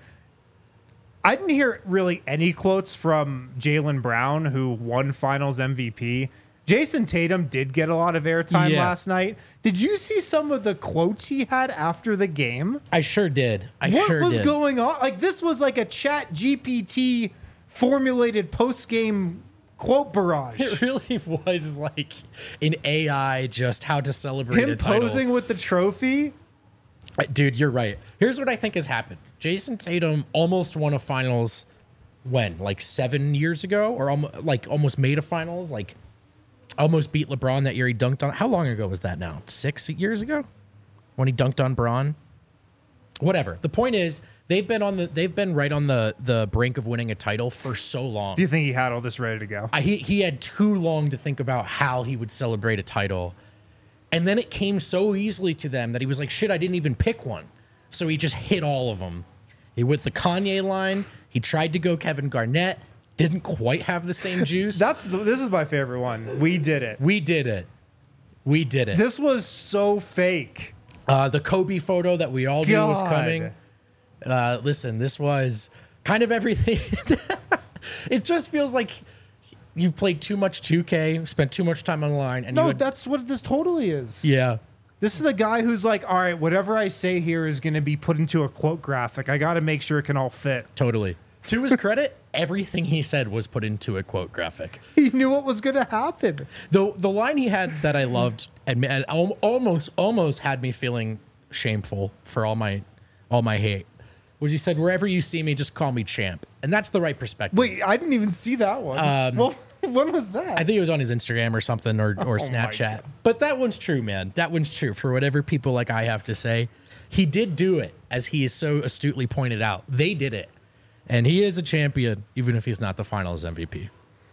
[SPEAKER 1] I didn't hear really any quotes from Jaylen Brown, who won Finals MVP. Jason Tatum did get a lot of airtime last night. Did you see some of the quotes he had after the game?
[SPEAKER 2] I sure did.
[SPEAKER 1] What was going on? Like, this was like a Chat GPT formulated post-game quote barrage.
[SPEAKER 2] It really was like an AI just how to celebrate a title.
[SPEAKER 1] Him posing with the trophy.
[SPEAKER 2] Dude, you're right. Here's what I think has happened. Jason Tatum almost won a finals when? Like 7 years ago? Or almost made a finals? Like almost beat LeBron that year he dunked on. How long ago was that now? 6 years ago? When he dunked on Bron? Whatever. The point is, they've been right on the brink of winning a title for so long.
[SPEAKER 1] Do you think he had all this ready to go?
[SPEAKER 2] He had too long to think about how he would celebrate a title. And then it came so easily to them that he was like, shit, I didn't even pick one. So he just hit all of them. He went the Kanye line. He tried to go Kevin Garnett. Didn't quite have the same juice.
[SPEAKER 1] This is my favorite one. We did it. This was so fake.
[SPEAKER 2] The Kobe photo that we all knew was coming. Listen, this was kind of everything. It just feels like you've played too much 2K, spent too much time online. And
[SPEAKER 1] that's what this totally is.
[SPEAKER 2] Yeah.
[SPEAKER 1] This is the guy who's like, all right, whatever I say here is going to be put into a quote graphic. I got to make sure it can all fit.
[SPEAKER 2] Totally. To his credit, everything he said was put into a quote graphic.
[SPEAKER 1] He knew what was going to happen.
[SPEAKER 2] The line he had that I loved and almost had me feeling shameful for all my hate was he said, wherever you see me, just call me champ. And that's the right perspective.
[SPEAKER 1] Wait, I didn't even see that one. Well, when was that?
[SPEAKER 2] I think it was on his Instagram or something or Snapchat. But that one's true, man. That one's true for whatever people like I have to say. he did do it, as he is so astutely pointed out. They did it. And he is a champion, even if he's not the finals MVP.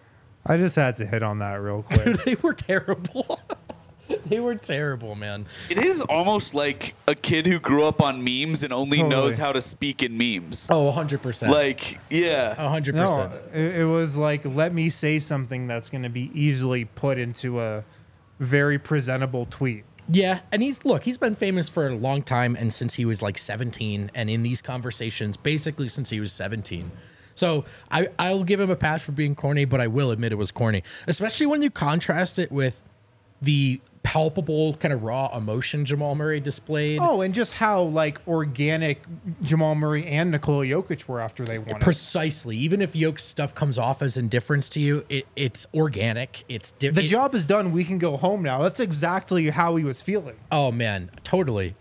[SPEAKER 1] I just had to hit on that real quick.
[SPEAKER 2] Dude, they were terrible. They were terrible, man.
[SPEAKER 3] It is almost like a kid who grew up on memes and only knows how to speak in memes.
[SPEAKER 2] Oh, 100%.
[SPEAKER 3] Like, yeah.
[SPEAKER 2] 100%.
[SPEAKER 1] No, it was like, let me say something that's going to be easily put into a very presentable tweet.
[SPEAKER 2] Yeah, and he's been famous for a long time, and since he was like 17, and in these conversations, basically since he was 17. So I'll give him a pass for being corny, but I will admit it was corny, especially when you contrast it with the palpable kind of raw emotion Jamal Murray displayed.
[SPEAKER 1] Oh, and just how like organic Jamal Murray and Nikola Jokic were after they won.
[SPEAKER 2] Precisely. Even if Jokic's stuff comes off as indifference to you, it's organic.
[SPEAKER 1] The job is done. We can go home now. That's exactly how he was feeling.
[SPEAKER 2] Oh man, totally.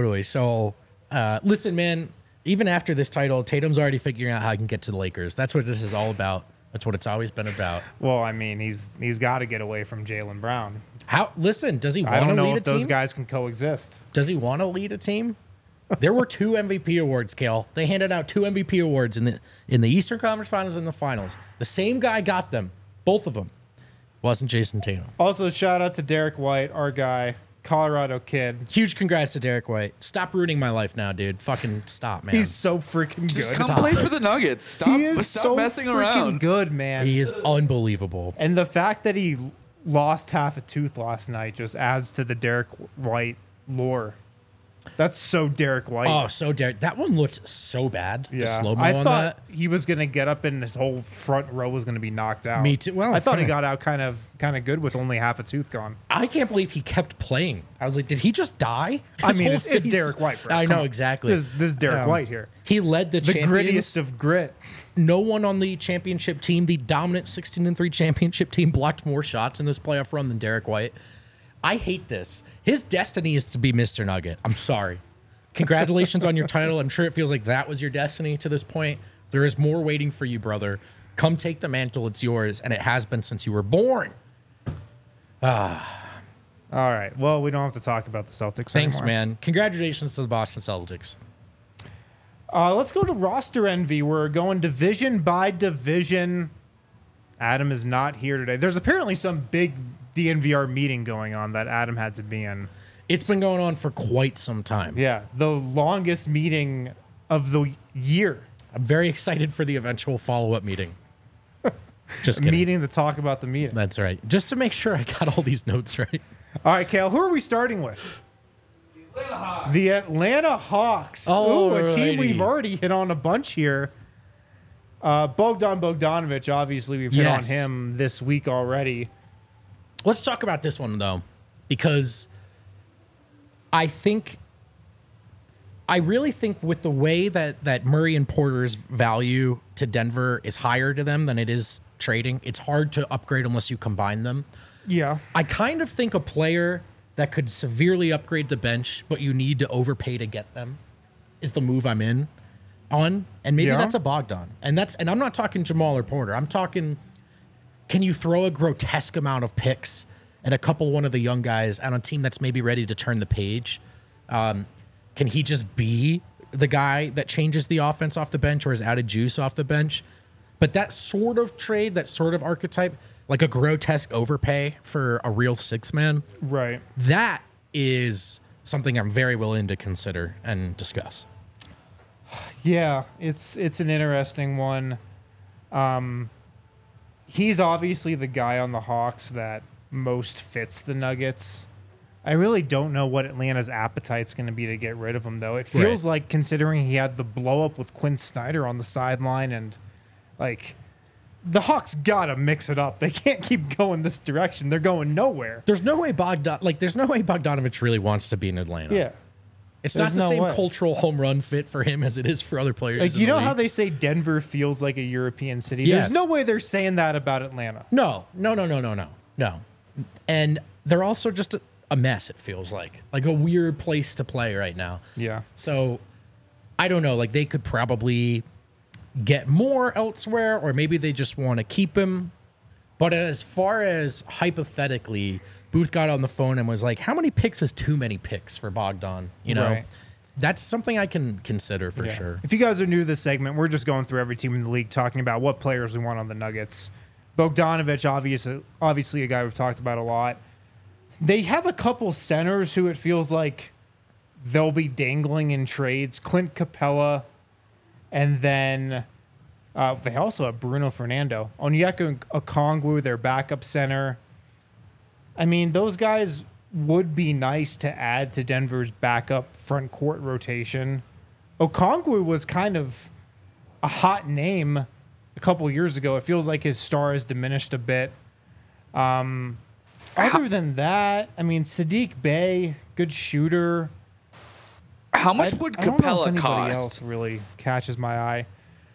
[SPEAKER 2] So, listen, man. Even after this title, Tatum's already figuring out how he can get to the Lakers. That's what this is all about. That's what it's always been about.
[SPEAKER 1] Well, I mean, he's got to get away from Jaylen Brown.
[SPEAKER 2] Listen, does he want
[SPEAKER 1] I
[SPEAKER 2] to
[SPEAKER 1] don't
[SPEAKER 2] lead
[SPEAKER 1] know
[SPEAKER 2] a
[SPEAKER 1] if
[SPEAKER 2] team?
[SPEAKER 1] those guys can coexist.
[SPEAKER 2] Does he want to lead a team? There were 2 MVP awards, Kale. They handed out 2 MVP awards in the Eastern Conference Finals and the Finals. The same guy got them, both of them. Wasn't Jason Tatum.
[SPEAKER 1] Also, shout out to Derek White, our guy, Colorado kid.
[SPEAKER 2] Huge congrats to Derek White. Stop ruining my life now, dude. Fucking stop, man.
[SPEAKER 1] He's so freaking
[SPEAKER 3] Just
[SPEAKER 1] good.
[SPEAKER 3] come play for the Nuggets. Stop,
[SPEAKER 1] He is
[SPEAKER 3] stop
[SPEAKER 1] so
[SPEAKER 3] messing
[SPEAKER 1] freaking
[SPEAKER 3] around.
[SPEAKER 1] good, man.
[SPEAKER 2] He is unbelievable.
[SPEAKER 1] And the fact that he lost half a tooth last night just adds to the Derek White lore. That's so Derek White.
[SPEAKER 2] Oh, so Derek. That one looked so bad. The slow-mo
[SPEAKER 1] I
[SPEAKER 2] on
[SPEAKER 1] thought
[SPEAKER 2] that.
[SPEAKER 1] he was gonna get up and his whole front row was gonna be knocked out.
[SPEAKER 2] Me too. Well,
[SPEAKER 1] I thought he
[SPEAKER 2] kinda-
[SPEAKER 1] got out kind of good with only half a tooth gone.
[SPEAKER 2] I can't believe he kept playing. I was like, did he just die?
[SPEAKER 1] I
[SPEAKER 2] His
[SPEAKER 1] mean,
[SPEAKER 2] whole
[SPEAKER 1] it's
[SPEAKER 2] face-
[SPEAKER 1] Derek White, bro.
[SPEAKER 2] I
[SPEAKER 1] Come
[SPEAKER 2] know,
[SPEAKER 1] on.
[SPEAKER 2] exactly.
[SPEAKER 1] This is Derek White here.
[SPEAKER 2] He led the
[SPEAKER 1] The
[SPEAKER 2] champions.
[SPEAKER 1] grittiest of grit.
[SPEAKER 2] No one on the championship team, the dominant 16-3 championship team, blocked more shots in this playoff run than Derek White. I hate this. His destiny is to be Mr. Nugget. I'm sorry. Congratulations on your title. I'm sure it feels like that was your destiny to this point. There is more waiting for you, brother. Come take the mantle. It's yours, and it has been since you were born.
[SPEAKER 1] All right. Well, we don't have to talk about the Celtics
[SPEAKER 2] Thanks,
[SPEAKER 1] anymore.
[SPEAKER 2] man. Congratulations to the Boston Celtics.
[SPEAKER 1] Let's go to roster envy. We're going division by division. Adam is not here today. There's apparently some big DNVR meeting going on that Adam had to be in.
[SPEAKER 2] It's been going on for quite some time.
[SPEAKER 1] Yeah, the longest meeting of the year.
[SPEAKER 2] I'm very excited for the eventual follow-up meeting. Just
[SPEAKER 1] A
[SPEAKER 2] kidding.
[SPEAKER 1] meeting to talk about the meeting.
[SPEAKER 2] That's right. Just to make sure I got all these notes right.
[SPEAKER 1] All right, Kale, who are we starting with? The Atlanta Hawks. Ooh, a team
[SPEAKER 2] Alrighty.
[SPEAKER 1] we've already hit on a bunch here. Bogdan Bogdanovic, obviously, we've hit on
[SPEAKER 2] Yes.
[SPEAKER 1] him this week already.
[SPEAKER 2] Let's talk about this one, though, because I really think with the way that Murray and Porter's value to Denver is higher to them than it is trading, it's hard to upgrade unless you combine them.
[SPEAKER 1] Yeah.
[SPEAKER 2] I kind of think a player that could severely upgrade the bench, but you need to overpay to get them, is the move I'm in on. And maybe
[SPEAKER 1] Yeah.
[SPEAKER 2] that's a Bogdan. And I'm not talking Jamal or Porter. I'm talking, can you throw a grotesque amount of picks and one of the young guys on a team that's maybe ready to turn the page? Can he just be the guy that changes the offense off the bench or has added juice off the bench? But that sort of trade, that sort of archetype, like a grotesque overpay for a real 6-man,
[SPEAKER 1] Right.
[SPEAKER 2] that is something I'm very willing to consider and discuss.
[SPEAKER 1] Yeah, it's an interesting one. He's obviously the guy on the Hawks that most fits the Nuggets. I really don't know what Atlanta's appetite's going to be to get rid of him, though. It feels
[SPEAKER 2] Right.
[SPEAKER 1] like, considering he had the blow up with Quinn Snyder on the sideline, and like the Hawks gotta mix it up. They can't keep going this direction. They're going nowhere.
[SPEAKER 2] There's no way Bogdanovich really wants to be in Atlanta.
[SPEAKER 1] Yeah.
[SPEAKER 2] It's
[SPEAKER 1] There's
[SPEAKER 2] not the
[SPEAKER 1] no
[SPEAKER 2] same
[SPEAKER 1] way.
[SPEAKER 2] cultural home run fit for him as it is for other players.
[SPEAKER 1] Like,
[SPEAKER 2] in
[SPEAKER 1] you
[SPEAKER 2] the
[SPEAKER 1] know how
[SPEAKER 2] league.
[SPEAKER 1] they say Denver feels like a European city?
[SPEAKER 2] Yes.
[SPEAKER 1] There's no way they're saying that about Atlanta.
[SPEAKER 2] No. And they're also just a mess, it feels like a weird place to play right now.
[SPEAKER 1] Yeah.
[SPEAKER 2] So I don't know, like they could probably get more elsewhere, or maybe they just want to keep him. But as far as hypothetically, Booth got on the phone and was like, how many picks is too many picks for Bogdan? You know?
[SPEAKER 1] Right.
[SPEAKER 2] That's something I can consider for sure.
[SPEAKER 1] If you guys are new to this segment, we're just going through every team in the league, talking about what players we want on the Nuggets. Bogdanovich, obviously a guy we've talked about a lot. They have a couple centers who it feels like they'll be dangling in trades. Clint Capella, and then they also have Bruno Fernando. Onyeka Okongwu, their backup center. I mean, those guys would be nice to add to Denver's backup front court rotation. Okongwu was kind of a hot name a couple years ago. It feels like his star has diminished a bit. Other than that, I mean, Sadiq Bey, good shooter.
[SPEAKER 3] How much would Capella
[SPEAKER 1] I don't know if anybody
[SPEAKER 3] cost?
[SPEAKER 1] else really catches my eye.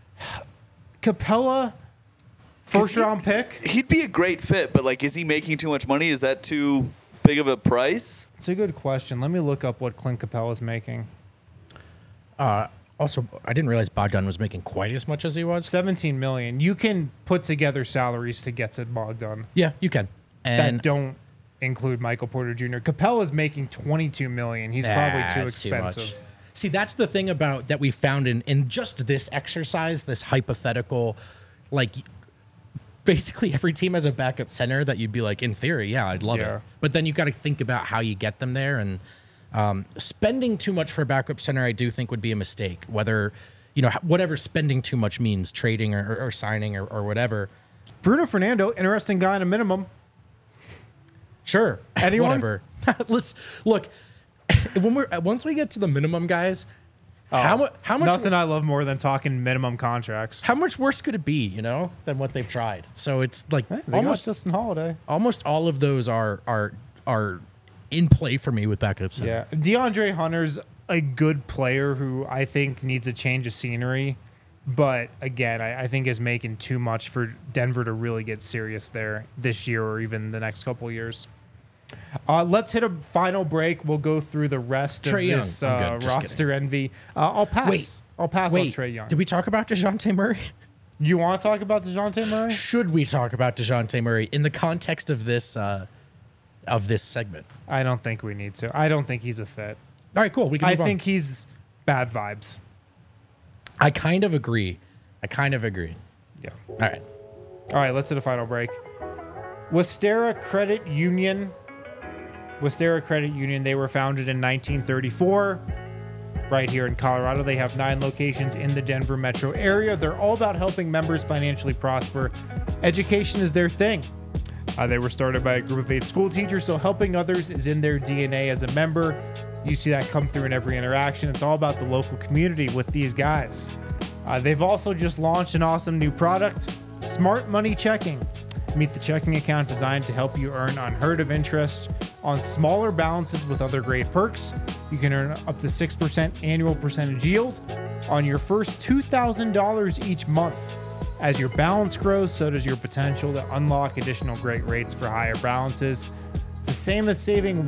[SPEAKER 1] Capella, first round pick.
[SPEAKER 3] He'd be a great fit, but like, is he making too much money? Is that too big of a price?
[SPEAKER 1] It's a good question. Let me look up what Clint Capella is making.
[SPEAKER 2] Also, I didn't realize Bogdan was making quite as much as he was.
[SPEAKER 1] $17 million. You can put together salaries to get to Bogdan
[SPEAKER 2] Yeah, you can. And
[SPEAKER 1] that don't include Michael Porter Jr. Capella's making $22 million. He's probably too
[SPEAKER 2] that's
[SPEAKER 1] expensive.
[SPEAKER 2] much. See, that's the thing about that we found in just this exercise, this hypothetical, like basically every team has a backup center that you'd be like, in theory, yeah, I'd love
[SPEAKER 1] Yeah.
[SPEAKER 2] it. But then you got to think about how you get them there, and spending too much for a backup center, I do think would be a mistake. Whether, whatever spending too much means, trading or signing or whatever.
[SPEAKER 1] Bruno Fernando, interesting guy on a minimum.
[SPEAKER 2] Sure.
[SPEAKER 1] Anyone?
[SPEAKER 2] Whatever. Let's look. Once we get to the minimum guys, how much?
[SPEAKER 1] Nothing I love more than talking minimum contracts.
[SPEAKER 2] How much worse could it be, than what they've tried? So it's like
[SPEAKER 1] They
[SPEAKER 2] almost
[SPEAKER 1] got Justin Holiday.
[SPEAKER 2] almost all of those are in play for me with backup center.
[SPEAKER 1] Yeah, DeAndre Hunter's a good player who I think needs a change of scenery, but again, I think is making too much for Denver to really get serious there this year or even the next couple of years. Let's hit a final break. We'll go through the rest
[SPEAKER 2] Trae
[SPEAKER 1] of
[SPEAKER 2] Young.
[SPEAKER 1] this
[SPEAKER 2] I'm good. Just
[SPEAKER 1] roster envy. I'll pass.
[SPEAKER 2] Wait.
[SPEAKER 1] I'll pass on
[SPEAKER 2] Wait,
[SPEAKER 1] Trae Young.
[SPEAKER 2] did we talk about DeJounte Murray?
[SPEAKER 1] You want to talk about DeJounte Murray?
[SPEAKER 2] Should we talk about DeJounte Murray in the context of this segment?
[SPEAKER 1] I don't think we need to. I don't think he's a fit.
[SPEAKER 2] All right, cool. We can
[SPEAKER 1] I
[SPEAKER 2] move on.
[SPEAKER 1] think he's bad vibes.
[SPEAKER 2] I kind of agree.
[SPEAKER 1] Yeah.
[SPEAKER 2] All right.
[SPEAKER 1] All right, let's hit a final break. Westera Credit Union. They were founded in 1934 right here in Colorado. They have 9 locations in the Denver metro area. They're all about helping members financially prosper. Education is their thing. They were started by a group of 8 school teachers, so helping others is in their DNA as a member. You see that come through in every interaction. It's all about the local community with these guys. They've also just launched an awesome new product, Smart Money Checking. Meet the checking account designed to help you earn unheard of interest on smaller balances with other great perks. You can earn up to 6% annual percentage yield on your first $2,000 each month. As your balance grows, so does your potential to unlock additional great rates for higher balances. It's the same as saving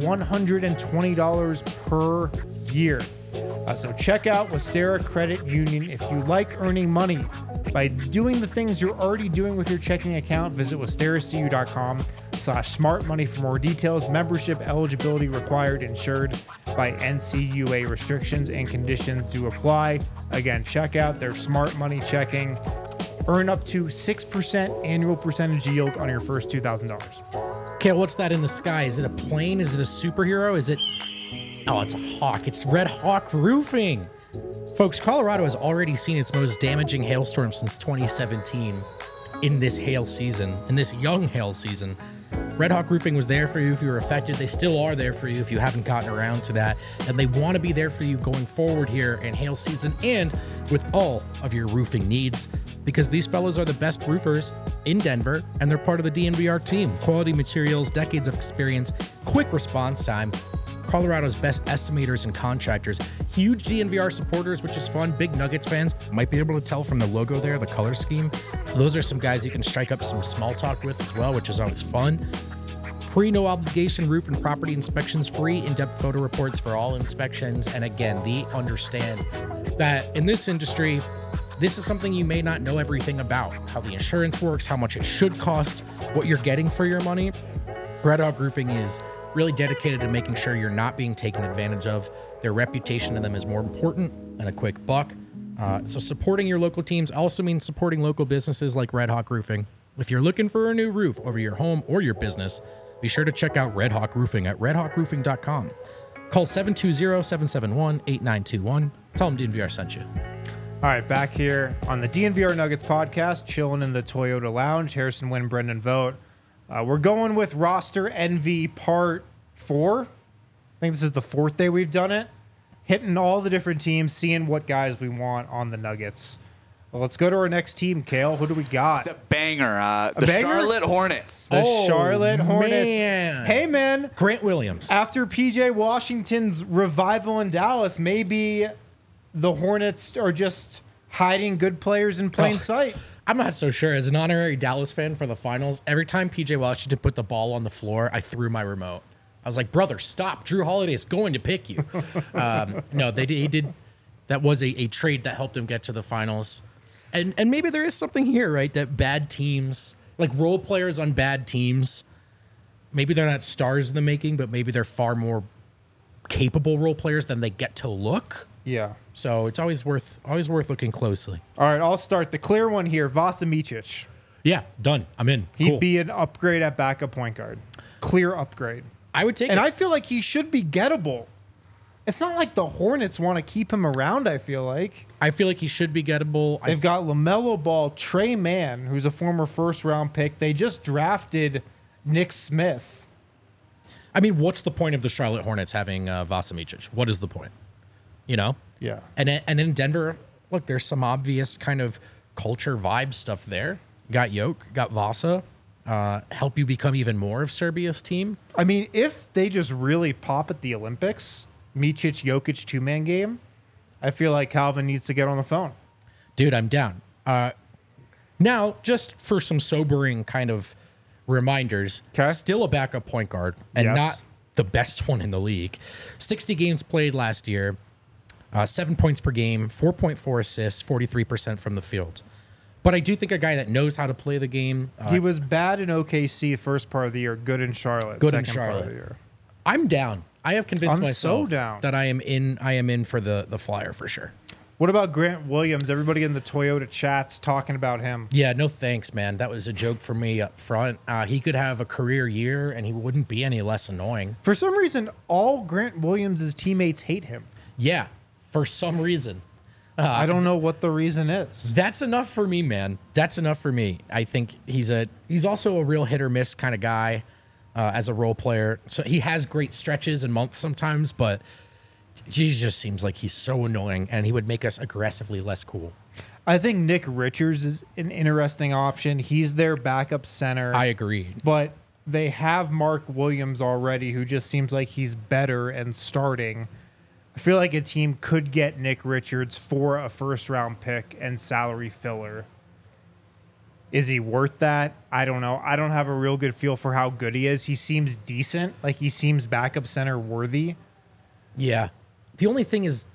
[SPEAKER 1] $120 per year. So check out Westera Credit Union if you like earning money by doing the things you're already doing with your checking account. Visit westeracu.com/smartmoney for more details. Membership eligibility required, insured by NCUA. Restrictions and conditions do apply. Again, check out their Smart Money Checking. Earn up to 6% annual percentage yield on your first $2,000.
[SPEAKER 2] Okay, what's that in the sky? Is it a plane? Is it a superhero? Is it... Oh, it's a hawk. It's Red Hawk Roofing. Folks, Colorado has already seen its most damaging hailstorm since 2017 in this hail season, in this young hail season. Red Hawk Roofing was there for you if you were affected. They still are there for you if you haven't gotten around to that. And they want to be there for you going forward here in hail season and with all of your roofing needs, because these fellows are the best roofers in Denver and they're part of the DNVR team. Quality materials, decades of experience, quick response time. Colorado's best estimators and contractors, huge DNVR supporters, which is fun. Big Nuggets fans, might be able to tell from the logo there, the color scheme. So those are some guys you can strike up some small talk with as well, which is always fun. Free, no obligation roof and property inspections, free in-depth photo reports for all inspections. And again, they understand that in this industry, this is something you may not know everything about, how the insurance works, how much it should cost, what you're getting for your money. Red Hawk Roofing is really dedicated to making sure you're not being taken advantage of. Their reputation to them is more important than a quick buck. So supporting your local teams also means supporting local businesses like Red Hawk Roofing. If you're looking for a new roof over your home or your business, be sure to check out Red Hawk Roofing at redhawkroofing.com. Call 720-771-8921. Tell them DNVR sent you.
[SPEAKER 1] All right, back here on the DNVR Nuggets podcast, chilling in the Toyota Lounge. Harrison Wynn, Brendan Vogt. We're going with roster envy part 4. I think this is the 4th day we've done it. Hitting all the different teams, seeing what guys we want on the Nuggets. Well, let's go to our next team, Kale. Who do we got?
[SPEAKER 3] It's a banger. The
[SPEAKER 1] banger?
[SPEAKER 3] Charlotte Hornets.
[SPEAKER 1] The Charlotte Hornets.
[SPEAKER 2] Man.
[SPEAKER 1] Hey, man.
[SPEAKER 2] Grant Williams.
[SPEAKER 1] After P.J. Washington's revival in Dallas, maybe the Hornets are just hiding good players in plain sight.
[SPEAKER 2] I'm not so sure. As an honorary Dallas fan for the finals, every time PJ Washington put the ball on the floor, I threw my remote. I was like, brother, stop. Drew Holiday is going to pick you. No, he did. That was a trade that helped him get to the finals. And maybe there is something here, right? That bad teams, like role players on bad teams, maybe they're not stars in the making, but maybe they're far more capable role players than they get to look.
[SPEAKER 1] Yeah.
[SPEAKER 2] So it's always worth looking closely.
[SPEAKER 1] All right, I'll start. The clear one here, Vasa Micic.
[SPEAKER 2] Yeah, done. I'm in.
[SPEAKER 1] He'd
[SPEAKER 2] Cool.
[SPEAKER 1] be an upgrade at backup point guard. Clear upgrade.
[SPEAKER 2] I would take
[SPEAKER 1] And
[SPEAKER 2] it.
[SPEAKER 1] I feel like he should be gettable. It's not like the Hornets want to keep him around, I feel like.
[SPEAKER 2] I feel like he should be gettable.
[SPEAKER 1] They've got LaMelo Ball, Trey Mann, who's a former first-round pick. They just drafted Nick Smith.
[SPEAKER 2] I mean, what's the point of the Charlotte Hornets having Vasa Micic? What is the point? You know?
[SPEAKER 1] Yeah.
[SPEAKER 2] And in Denver, look, there's some obvious kind of culture vibe stuff there. Got Yoke, got Vasa. Help you become even more of Serbia's team.
[SPEAKER 1] I mean, if they just really pop at the Olympics, Micic, Jokic two-man game, I feel like Calvin needs to get on the phone.
[SPEAKER 2] Dude, I'm down. Now, just for some sobering kind of reminders,
[SPEAKER 1] 'Kay.
[SPEAKER 2] still a backup point guard and
[SPEAKER 1] Yes.
[SPEAKER 2] not the best one in the league. 60 games played last year, 7 points per game, 4.4 assists, 43% from the field. But I do think a guy that knows how to play the game.
[SPEAKER 1] He was bad in OKC first part of the year, good in Charlotte
[SPEAKER 2] Good in
[SPEAKER 1] second part of
[SPEAKER 2] Charlotte.
[SPEAKER 1] the year.
[SPEAKER 2] I'm down. I have convinced
[SPEAKER 1] I'm so
[SPEAKER 2] myself
[SPEAKER 1] down.
[SPEAKER 2] that I am in for the Flyer for sure.
[SPEAKER 1] What about Grant Williams? Everybody in the Toyota chats talking about him.
[SPEAKER 2] Yeah, no thanks, man. That was a joke for me up front. He could have a career year and he wouldn't be any less annoying.
[SPEAKER 1] For some reason, all Grant Williams' teammates hate him.
[SPEAKER 2] Yeah, for some reason.
[SPEAKER 1] I don't know what the reason is.
[SPEAKER 2] That's enough for me, man. That's enough for me. I think he's also a real hit or miss kind of guy as a role player. So he has great stretches and months sometimes, but he just seems like he's so annoying and he would make us aggressively less cool.
[SPEAKER 1] I think Nick Richards is an interesting option. He's their backup center.
[SPEAKER 2] I agree.
[SPEAKER 1] But they have Mark Williams already, who just seems like he's better and starting. I feel like a team could get Nick Richards for a first-round pick and salary filler. Is he worth that? I don't know. I don't have a real good feel for how good he is. He seems decent. Like, he seems backup center worthy.
[SPEAKER 2] Yeah. The only thing is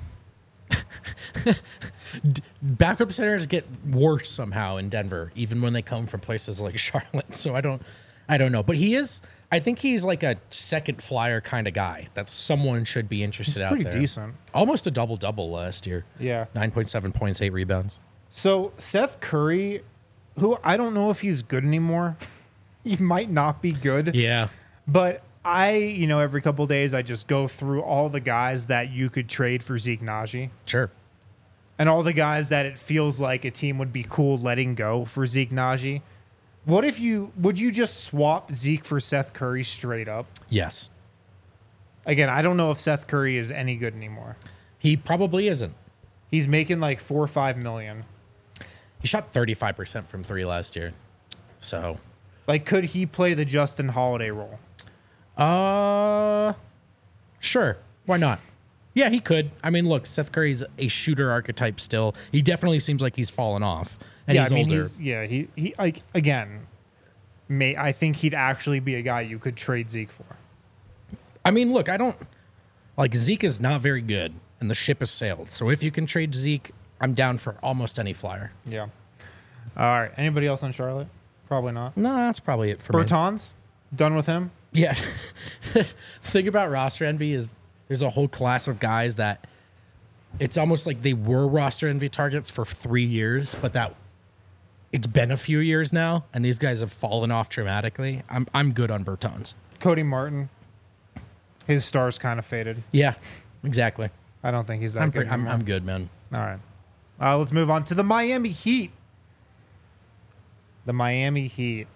[SPEAKER 2] backup centers get worse somehow in Denver, even when they come from places like Charlotte. So I don't know. But I think he's like a second Flyer kind of guy that someone should be interested out there.
[SPEAKER 1] Pretty decent.
[SPEAKER 2] Almost a double-double last year.
[SPEAKER 1] Yeah.
[SPEAKER 2] 9.7 points, 8 rebounds.
[SPEAKER 1] So Seth Curry, who I don't know if he's good anymore. He might not be good.
[SPEAKER 2] Yeah.
[SPEAKER 1] But every couple of days, I just go through all the guys that you could trade for Zeke Naji
[SPEAKER 2] Sure.
[SPEAKER 1] and all the guys that it feels like a team would be cool letting go for Zeke Naji. Would you just swap Zeke for Seth Curry straight up?
[SPEAKER 2] Yes.
[SPEAKER 1] Again, I don't know if Seth Curry is any good anymore.
[SPEAKER 2] He probably isn't.
[SPEAKER 1] He's making like $4 or $5 million.
[SPEAKER 2] He shot 35% from 3 last year. So,
[SPEAKER 1] Like, could he play the Justin Holiday role?
[SPEAKER 2] sure. Why not? Yeah, he could. I mean, look, Seth Curry's a shooter archetype still. He definitely seems like he's fallen off. And he's older.
[SPEAKER 1] He like, again, I think he'd actually be a guy you could trade Zeke for.
[SPEAKER 2] I mean, look, Zeke is not very good, and the ship has sailed. So if you can trade Zeke, I'm down for almost any Flyer.
[SPEAKER 1] Yeah. All right. Anybody else on Charlotte? Probably not.
[SPEAKER 2] No, that's probably it for me.
[SPEAKER 1] Bertans? Done with him?
[SPEAKER 2] Yeah. The thing about roster envy is There's a whole class of guys that it's almost like they were roster envy targets for 3 years, but that it's been a few years now, and these guys have fallen off dramatically. I'm good on Bertans.
[SPEAKER 1] Cody Martin, his star's kind of faded.
[SPEAKER 2] Yeah, exactly.
[SPEAKER 1] I don't think he's that good.
[SPEAKER 2] I'm good, man.
[SPEAKER 1] All right. Let's move on to the Miami Heat. The Miami Heat.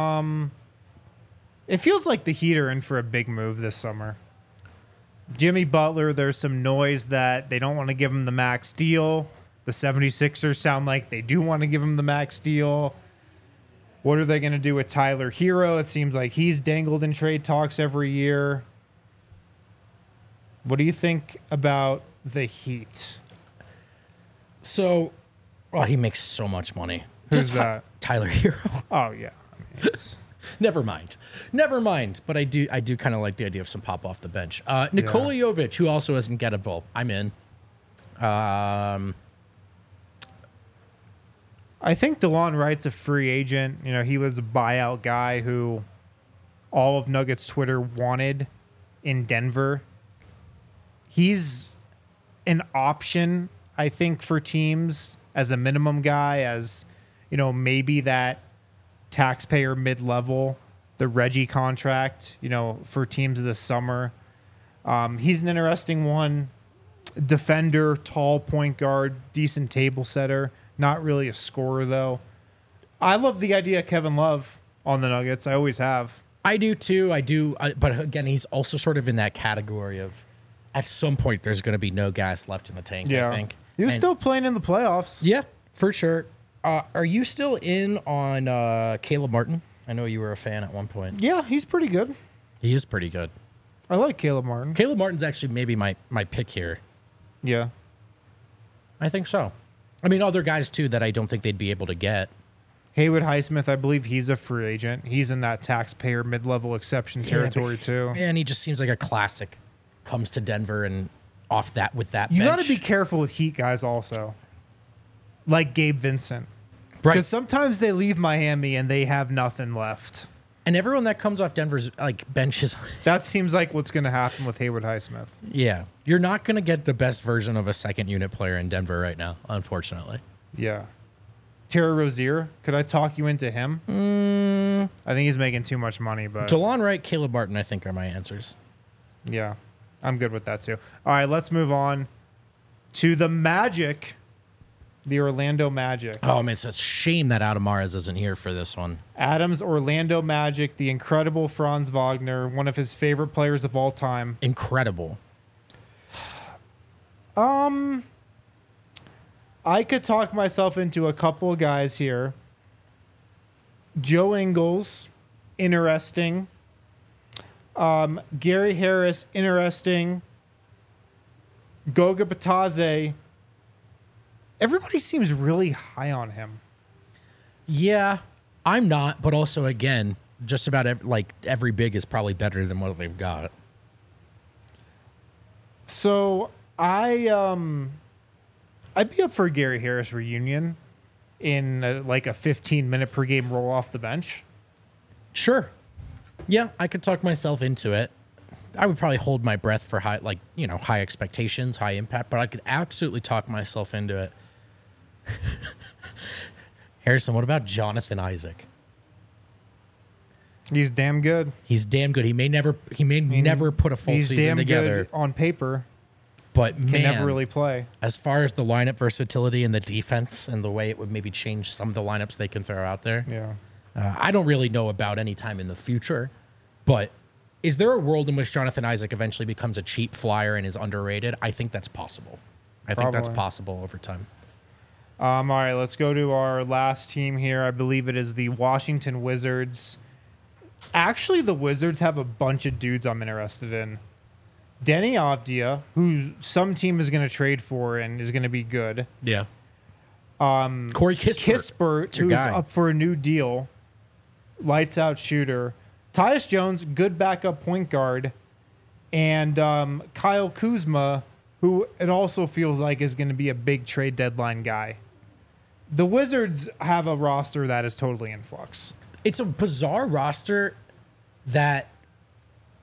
[SPEAKER 1] It feels like the Heat are in for a big move this summer. Jimmy Butler, there's some noise that they don't want to give him the max deal. The 76ers sound like they do want to give him the max deal. What are they going to do with Tyler Hero? It seems like he's dangled in trade talks every year. What do you think about the Heat?
[SPEAKER 2] So, he makes so much money.
[SPEAKER 1] Who's that?
[SPEAKER 2] Tyler Hero.
[SPEAKER 1] Oh, yeah. I mean,
[SPEAKER 2] Never mind. But I do kind of like the idea of some pop off the bench. Nikola Jovic, who also isn't gettable. I'm in.
[SPEAKER 1] I think DeLon Wright's a free agent. You know, he was a buyout guy who all of Nuggets Twitter wanted in Denver. He's an option, I think, for teams as a minimum guy, as, you know, maybe that taxpayer mid-level, the Reggie contract, you know, for teams this summer. He's an interesting one. Defender, tall point guard, decent table setter. Not really a scorer, though. I love the idea of Kevin Love on the Nuggets. I always have.
[SPEAKER 2] I do, too. But again, he's also sort of in that category of at some point there's going to be no gas left in the tank, I think.
[SPEAKER 1] He was still playing in the playoffs.
[SPEAKER 2] Yeah, for sure. Are you still in on Caleb Martin? I know you were a fan at one point.
[SPEAKER 1] Yeah, he's pretty good.
[SPEAKER 2] He is pretty good.
[SPEAKER 1] I like Caleb Martin.
[SPEAKER 2] Caleb Martin's actually maybe my pick here.
[SPEAKER 1] Yeah.
[SPEAKER 2] I think so. I mean, other guys, too, that I don't think they'd be able to get.
[SPEAKER 1] Haywood Highsmith, I believe he's a free agent. He's in that taxpayer mid-level exception territory, too.
[SPEAKER 2] And he just seems like a classic. Comes to Denver and off that with that
[SPEAKER 1] You
[SPEAKER 2] bench.
[SPEAKER 1] got to be careful with Heat guys also. Like Gabe Vincent.
[SPEAKER 2] Right.
[SPEAKER 1] Because sometimes they leave Miami and they have nothing left.
[SPEAKER 2] And everyone that comes off Denver's benches.
[SPEAKER 1] That seems like what's going to happen with Haywood Highsmith.
[SPEAKER 2] Yeah. You're not going to get the best version of a second unit player in Denver right now, unfortunately.
[SPEAKER 1] Yeah. Terry Rozier, could I talk you into him? I think he's making too much money, but
[SPEAKER 2] DeLon Wright, Caleb Martin, I think are my answers.
[SPEAKER 1] Yeah, I'm good with that too. All right, let's move on to the Magic, the Orlando Magic.
[SPEAKER 2] Oh, man, it's a shame that Adamares isn't here for this one.
[SPEAKER 1] Adams, Orlando Magic, the incredible Franz Wagner, one of his favorite players of all time.
[SPEAKER 2] Incredible.
[SPEAKER 1] I could talk myself into a couple of guys here. Joe Ingles, interesting. Gary Harris, interesting. Goga Batadze. Everybody seems really high on him.
[SPEAKER 2] Yeah, I'm not, but also, again, just about every big is probably better than what they've got.
[SPEAKER 1] So I'd be up for a Gary Harris reunion in a 15-minute per game roll off the bench.
[SPEAKER 2] Sure. Yeah, I could talk myself into it. I would probably hold my breath for high expectations, high impact, but I could absolutely talk myself into it. Harrison, what about Jonathan Isaac?
[SPEAKER 1] He's damn good.
[SPEAKER 2] He's damn good. He may never put a full
[SPEAKER 1] He's
[SPEAKER 2] season
[SPEAKER 1] damn
[SPEAKER 2] together.
[SPEAKER 1] good on paper.
[SPEAKER 2] But
[SPEAKER 1] Can never really play.
[SPEAKER 2] As far as the lineup versatility and the defense and the way it would maybe change some of the lineups they can throw out there.
[SPEAKER 1] Yeah.
[SPEAKER 2] I don't really know about any time in the future, but is there a world in which Jonathan Isaac eventually becomes a cheap flyer and is underrated? I think that's possible. I think that's possible over time.
[SPEAKER 1] All right, let's go to our last team here. I believe it is the Washington Wizards. Actually, the Wizards have a bunch of dudes I'm interested in. Denny Avdia, who some team is going to trade for and is going to be good.
[SPEAKER 2] Yeah. Corey
[SPEAKER 1] Kispert, who's up for a new deal. Lights out shooter. Tyus Jones, good backup point guard. And Kyle Kuzma, who it also feels like is going to be a big trade deadline guy. The Wizards have a roster that is totally in flux.
[SPEAKER 2] It's a bizarre roster that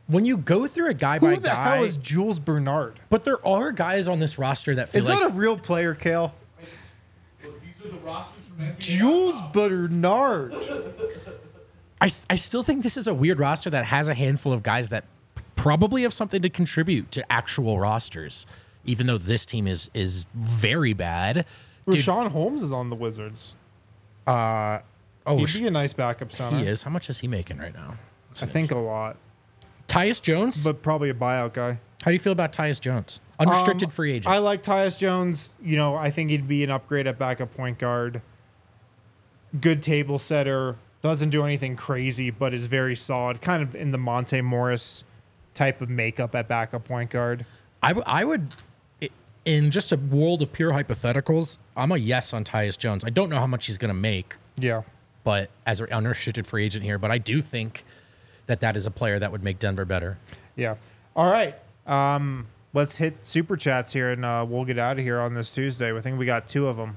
[SPEAKER 2] when you go through a guy
[SPEAKER 1] Who
[SPEAKER 2] by
[SPEAKER 1] the
[SPEAKER 2] guy,
[SPEAKER 1] hell is Jules Bernard?
[SPEAKER 2] but there are guys on this roster that feel
[SPEAKER 1] Is
[SPEAKER 2] like
[SPEAKER 1] that a real player, Kale?
[SPEAKER 3] These are the rosters from NBA.
[SPEAKER 1] Jules Bernard.
[SPEAKER 2] I still think this is a weird roster that has a handful of guys that probably have something to contribute to actual rosters, even though this team is very bad. Dude,
[SPEAKER 1] Rashawn Holmes is on the Wizards.
[SPEAKER 2] oh,
[SPEAKER 1] He'd be a nice backup center.
[SPEAKER 2] he is. How much is he making right now?
[SPEAKER 1] I think a lot,
[SPEAKER 2] Tyus Jones?
[SPEAKER 1] but probably a buyout guy.
[SPEAKER 2] How do you feel about Tyus Jones? Unrestricted free agent.
[SPEAKER 1] I like Tyus Jones. You know, I think he'd be an upgrade at backup point guard. Good table setter. Doesn't do anything crazy, but is very solid. Kind of in the Monte Morris type of makeup at backup point guard.
[SPEAKER 2] I would, in just a world of pure hypotheticals, I'm a yes on Tyus Jones. I don't know how much he's going to make,
[SPEAKER 1] Yeah.
[SPEAKER 2] but as an unrestricted free agent here, but I do think that is a player that would make Denver better.
[SPEAKER 1] Yeah. All right. Let's hit super chats here, and we'll get out of here on this Tuesday. I think we got 2 of them.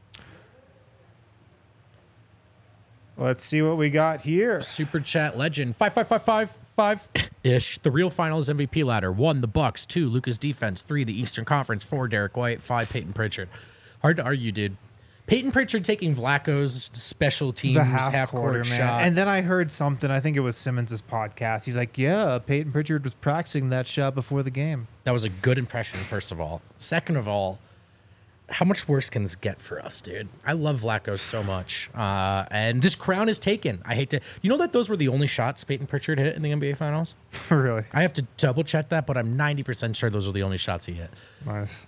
[SPEAKER 1] Let's see what we got here.
[SPEAKER 2] Super chat legend 5555-ish. The real finals MVP ladder. 1, the Bucks. 2, Luka's defense. 3, the Eastern Conference. 4, Derek White. 5, Peyton Pritchard. Hard to argue, dude. Peyton Pritchard taking Vlacho's special teams
[SPEAKER 1] The
[SPEAKER 2] half
[SPEAKER 1] quarter,
[SPEAKER 2] court
[SPEAKER 1] man.
[SPEAKER 2] shot.
[SPEAKER 1] And then I heard something. I think it was Simmons' podcast. He's like, "Yeah, Peyton Pritchard was practicing that shot before the game."
[SPEAKER 2] That was a good impression, first of all. Second of all, how much worse can this get for us, dude? I love Vlacho so much. And this crown is taken. I hate to... You know that those were the only shots Peyton Pritchard hit in the NBA Finals?
[SPEAKER 1] Really
[SPEAKER 2] I have to double check that, but I'm 90% sure those are the only shots he hit.
[SPEAKER 1] nice.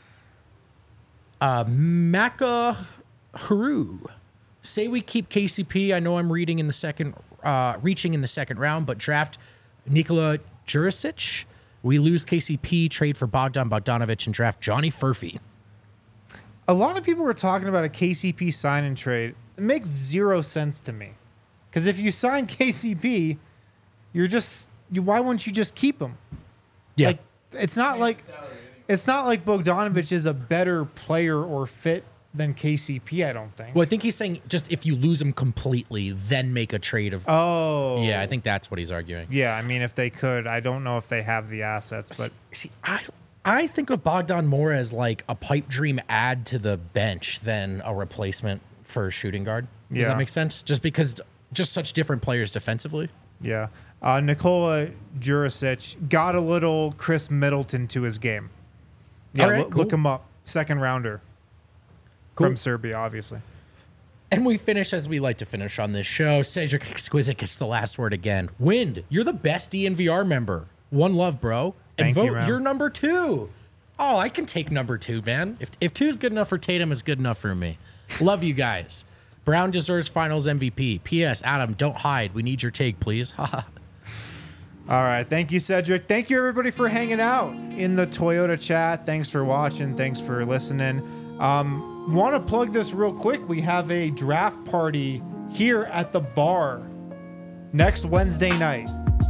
[SPEAKER 2] Maka Haru. Say we keep KCP. I know I'm reaching in the second round, but draft Nikola Jurisic. We lose KCP, trade for Bogdan Bogdanovic, and draft Johnny Furphy.
[SPEAKER 1] A lot of people were talking about a KCP sign and trade. It makes 0 sense to me. Because if you sign KCP, why wouldn't you just keep him?
[SPEAKER 2] Yeah.
[SPEAKER 1] Like it's not like Bogdanovic is a better player or fit than KCP, I don't think.
[SPEAKER 2] Well, I think he's saying just if you lose him completely, then make a trade of.
[SPEAKER 1] Oh.
[SPEAKER 2] Yeah, I think that's what he's arguing.
[SPEAKER 1] Yeah, I mean, if they could. I don't know if they have the assets, but
[SPEAKER 2] See, I think of Bogdan more as like a pipe dream add to the bench than a replacement for a shooting guard. Does
[SPEAKER 1] Yeah.
[SPEAKER 2] that make sense? Just because just such different players defensively.
[SPEAKER 1] yeah. Nikola Jurisic got a little Chris Middleton to his game. Yeah,
[SPEAKER 2] All right,
[SPEAKER 1] look
[SPEAKER 2] cool.
[SPEAKER 1] him up. Second rounder
[SPEAKER 2] Cool.
[SPEAKER 1] from Serbia, obviously.
[SPEAKER 2] And we finish as we like to finish on this show. Cedric Exquisite gets the last word again. Wind, you're the best DNVR member. One love, bro. And
[SPEAKER 1] Thank you,
[SPEAKER 2] vote,
[SPEAKER 1] man.
[SPEAKER 2] you're number 2. Oh, I can take number 2, man. If 2's good enough for Tatum, it's good enough for me. Love you guys. Brown deserves finals MVP. P.S. Adam, don't hide. We need your take, please.
[SPEAKER 1] All right. Thank you, Cedric. Thank you, everybody, for hanging out in the Toyota chat. Thanks for watching. Thanks for listening. Want to plug this real quick. We have a draft party here at the bar next Wednesday night.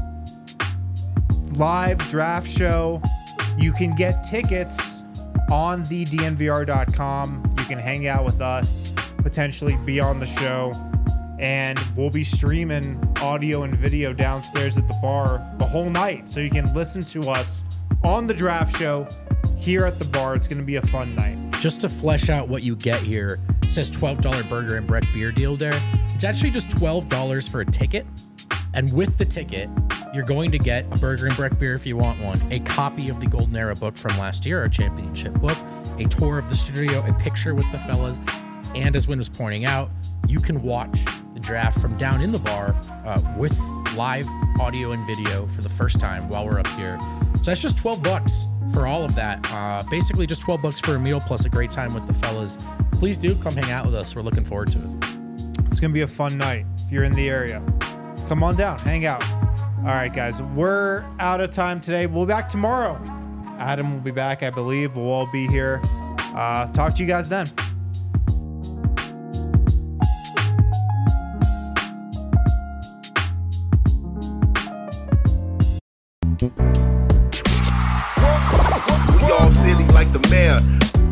[SPEAKER 1] Live draft show. You can get tickets on the DNVR.com. You can hang out with us, potentially be on the show. And we'll be streaming audio and video downstairs at the bar the whole night. So you can listen to us on the draft show here at the bar. It's going to be a fun night.
[SPEAKER 2] Just to flesh out what you get here, it says $12 burger and Breck beer deal there. It's actually just $12 for a ticket. And with the ticket, you're going to get a burger and Breck beer if you want one, a copy of the Golden Era book from last year, our championship book, a tour of the studio, a picture with the fellas, and as Wynn was pointing out, you can watch the draft from down in the bar with live audio and video for the first time while we're up here. So that's just $12 for all of that. Basically just $12 for a meal plus a great time with the fellas. Please do come hang out with us. We're looking forward to it.
[SPEAKER 1] It's going to be a fun night. If you're in the area, come on down, hang out. All right, guys, we're out of time today. We'll be back tomorrow. Adam will be back, I believe. We'll all be here. Talk to you guys then.
[SPEAKER 4] We all silly like the mayor.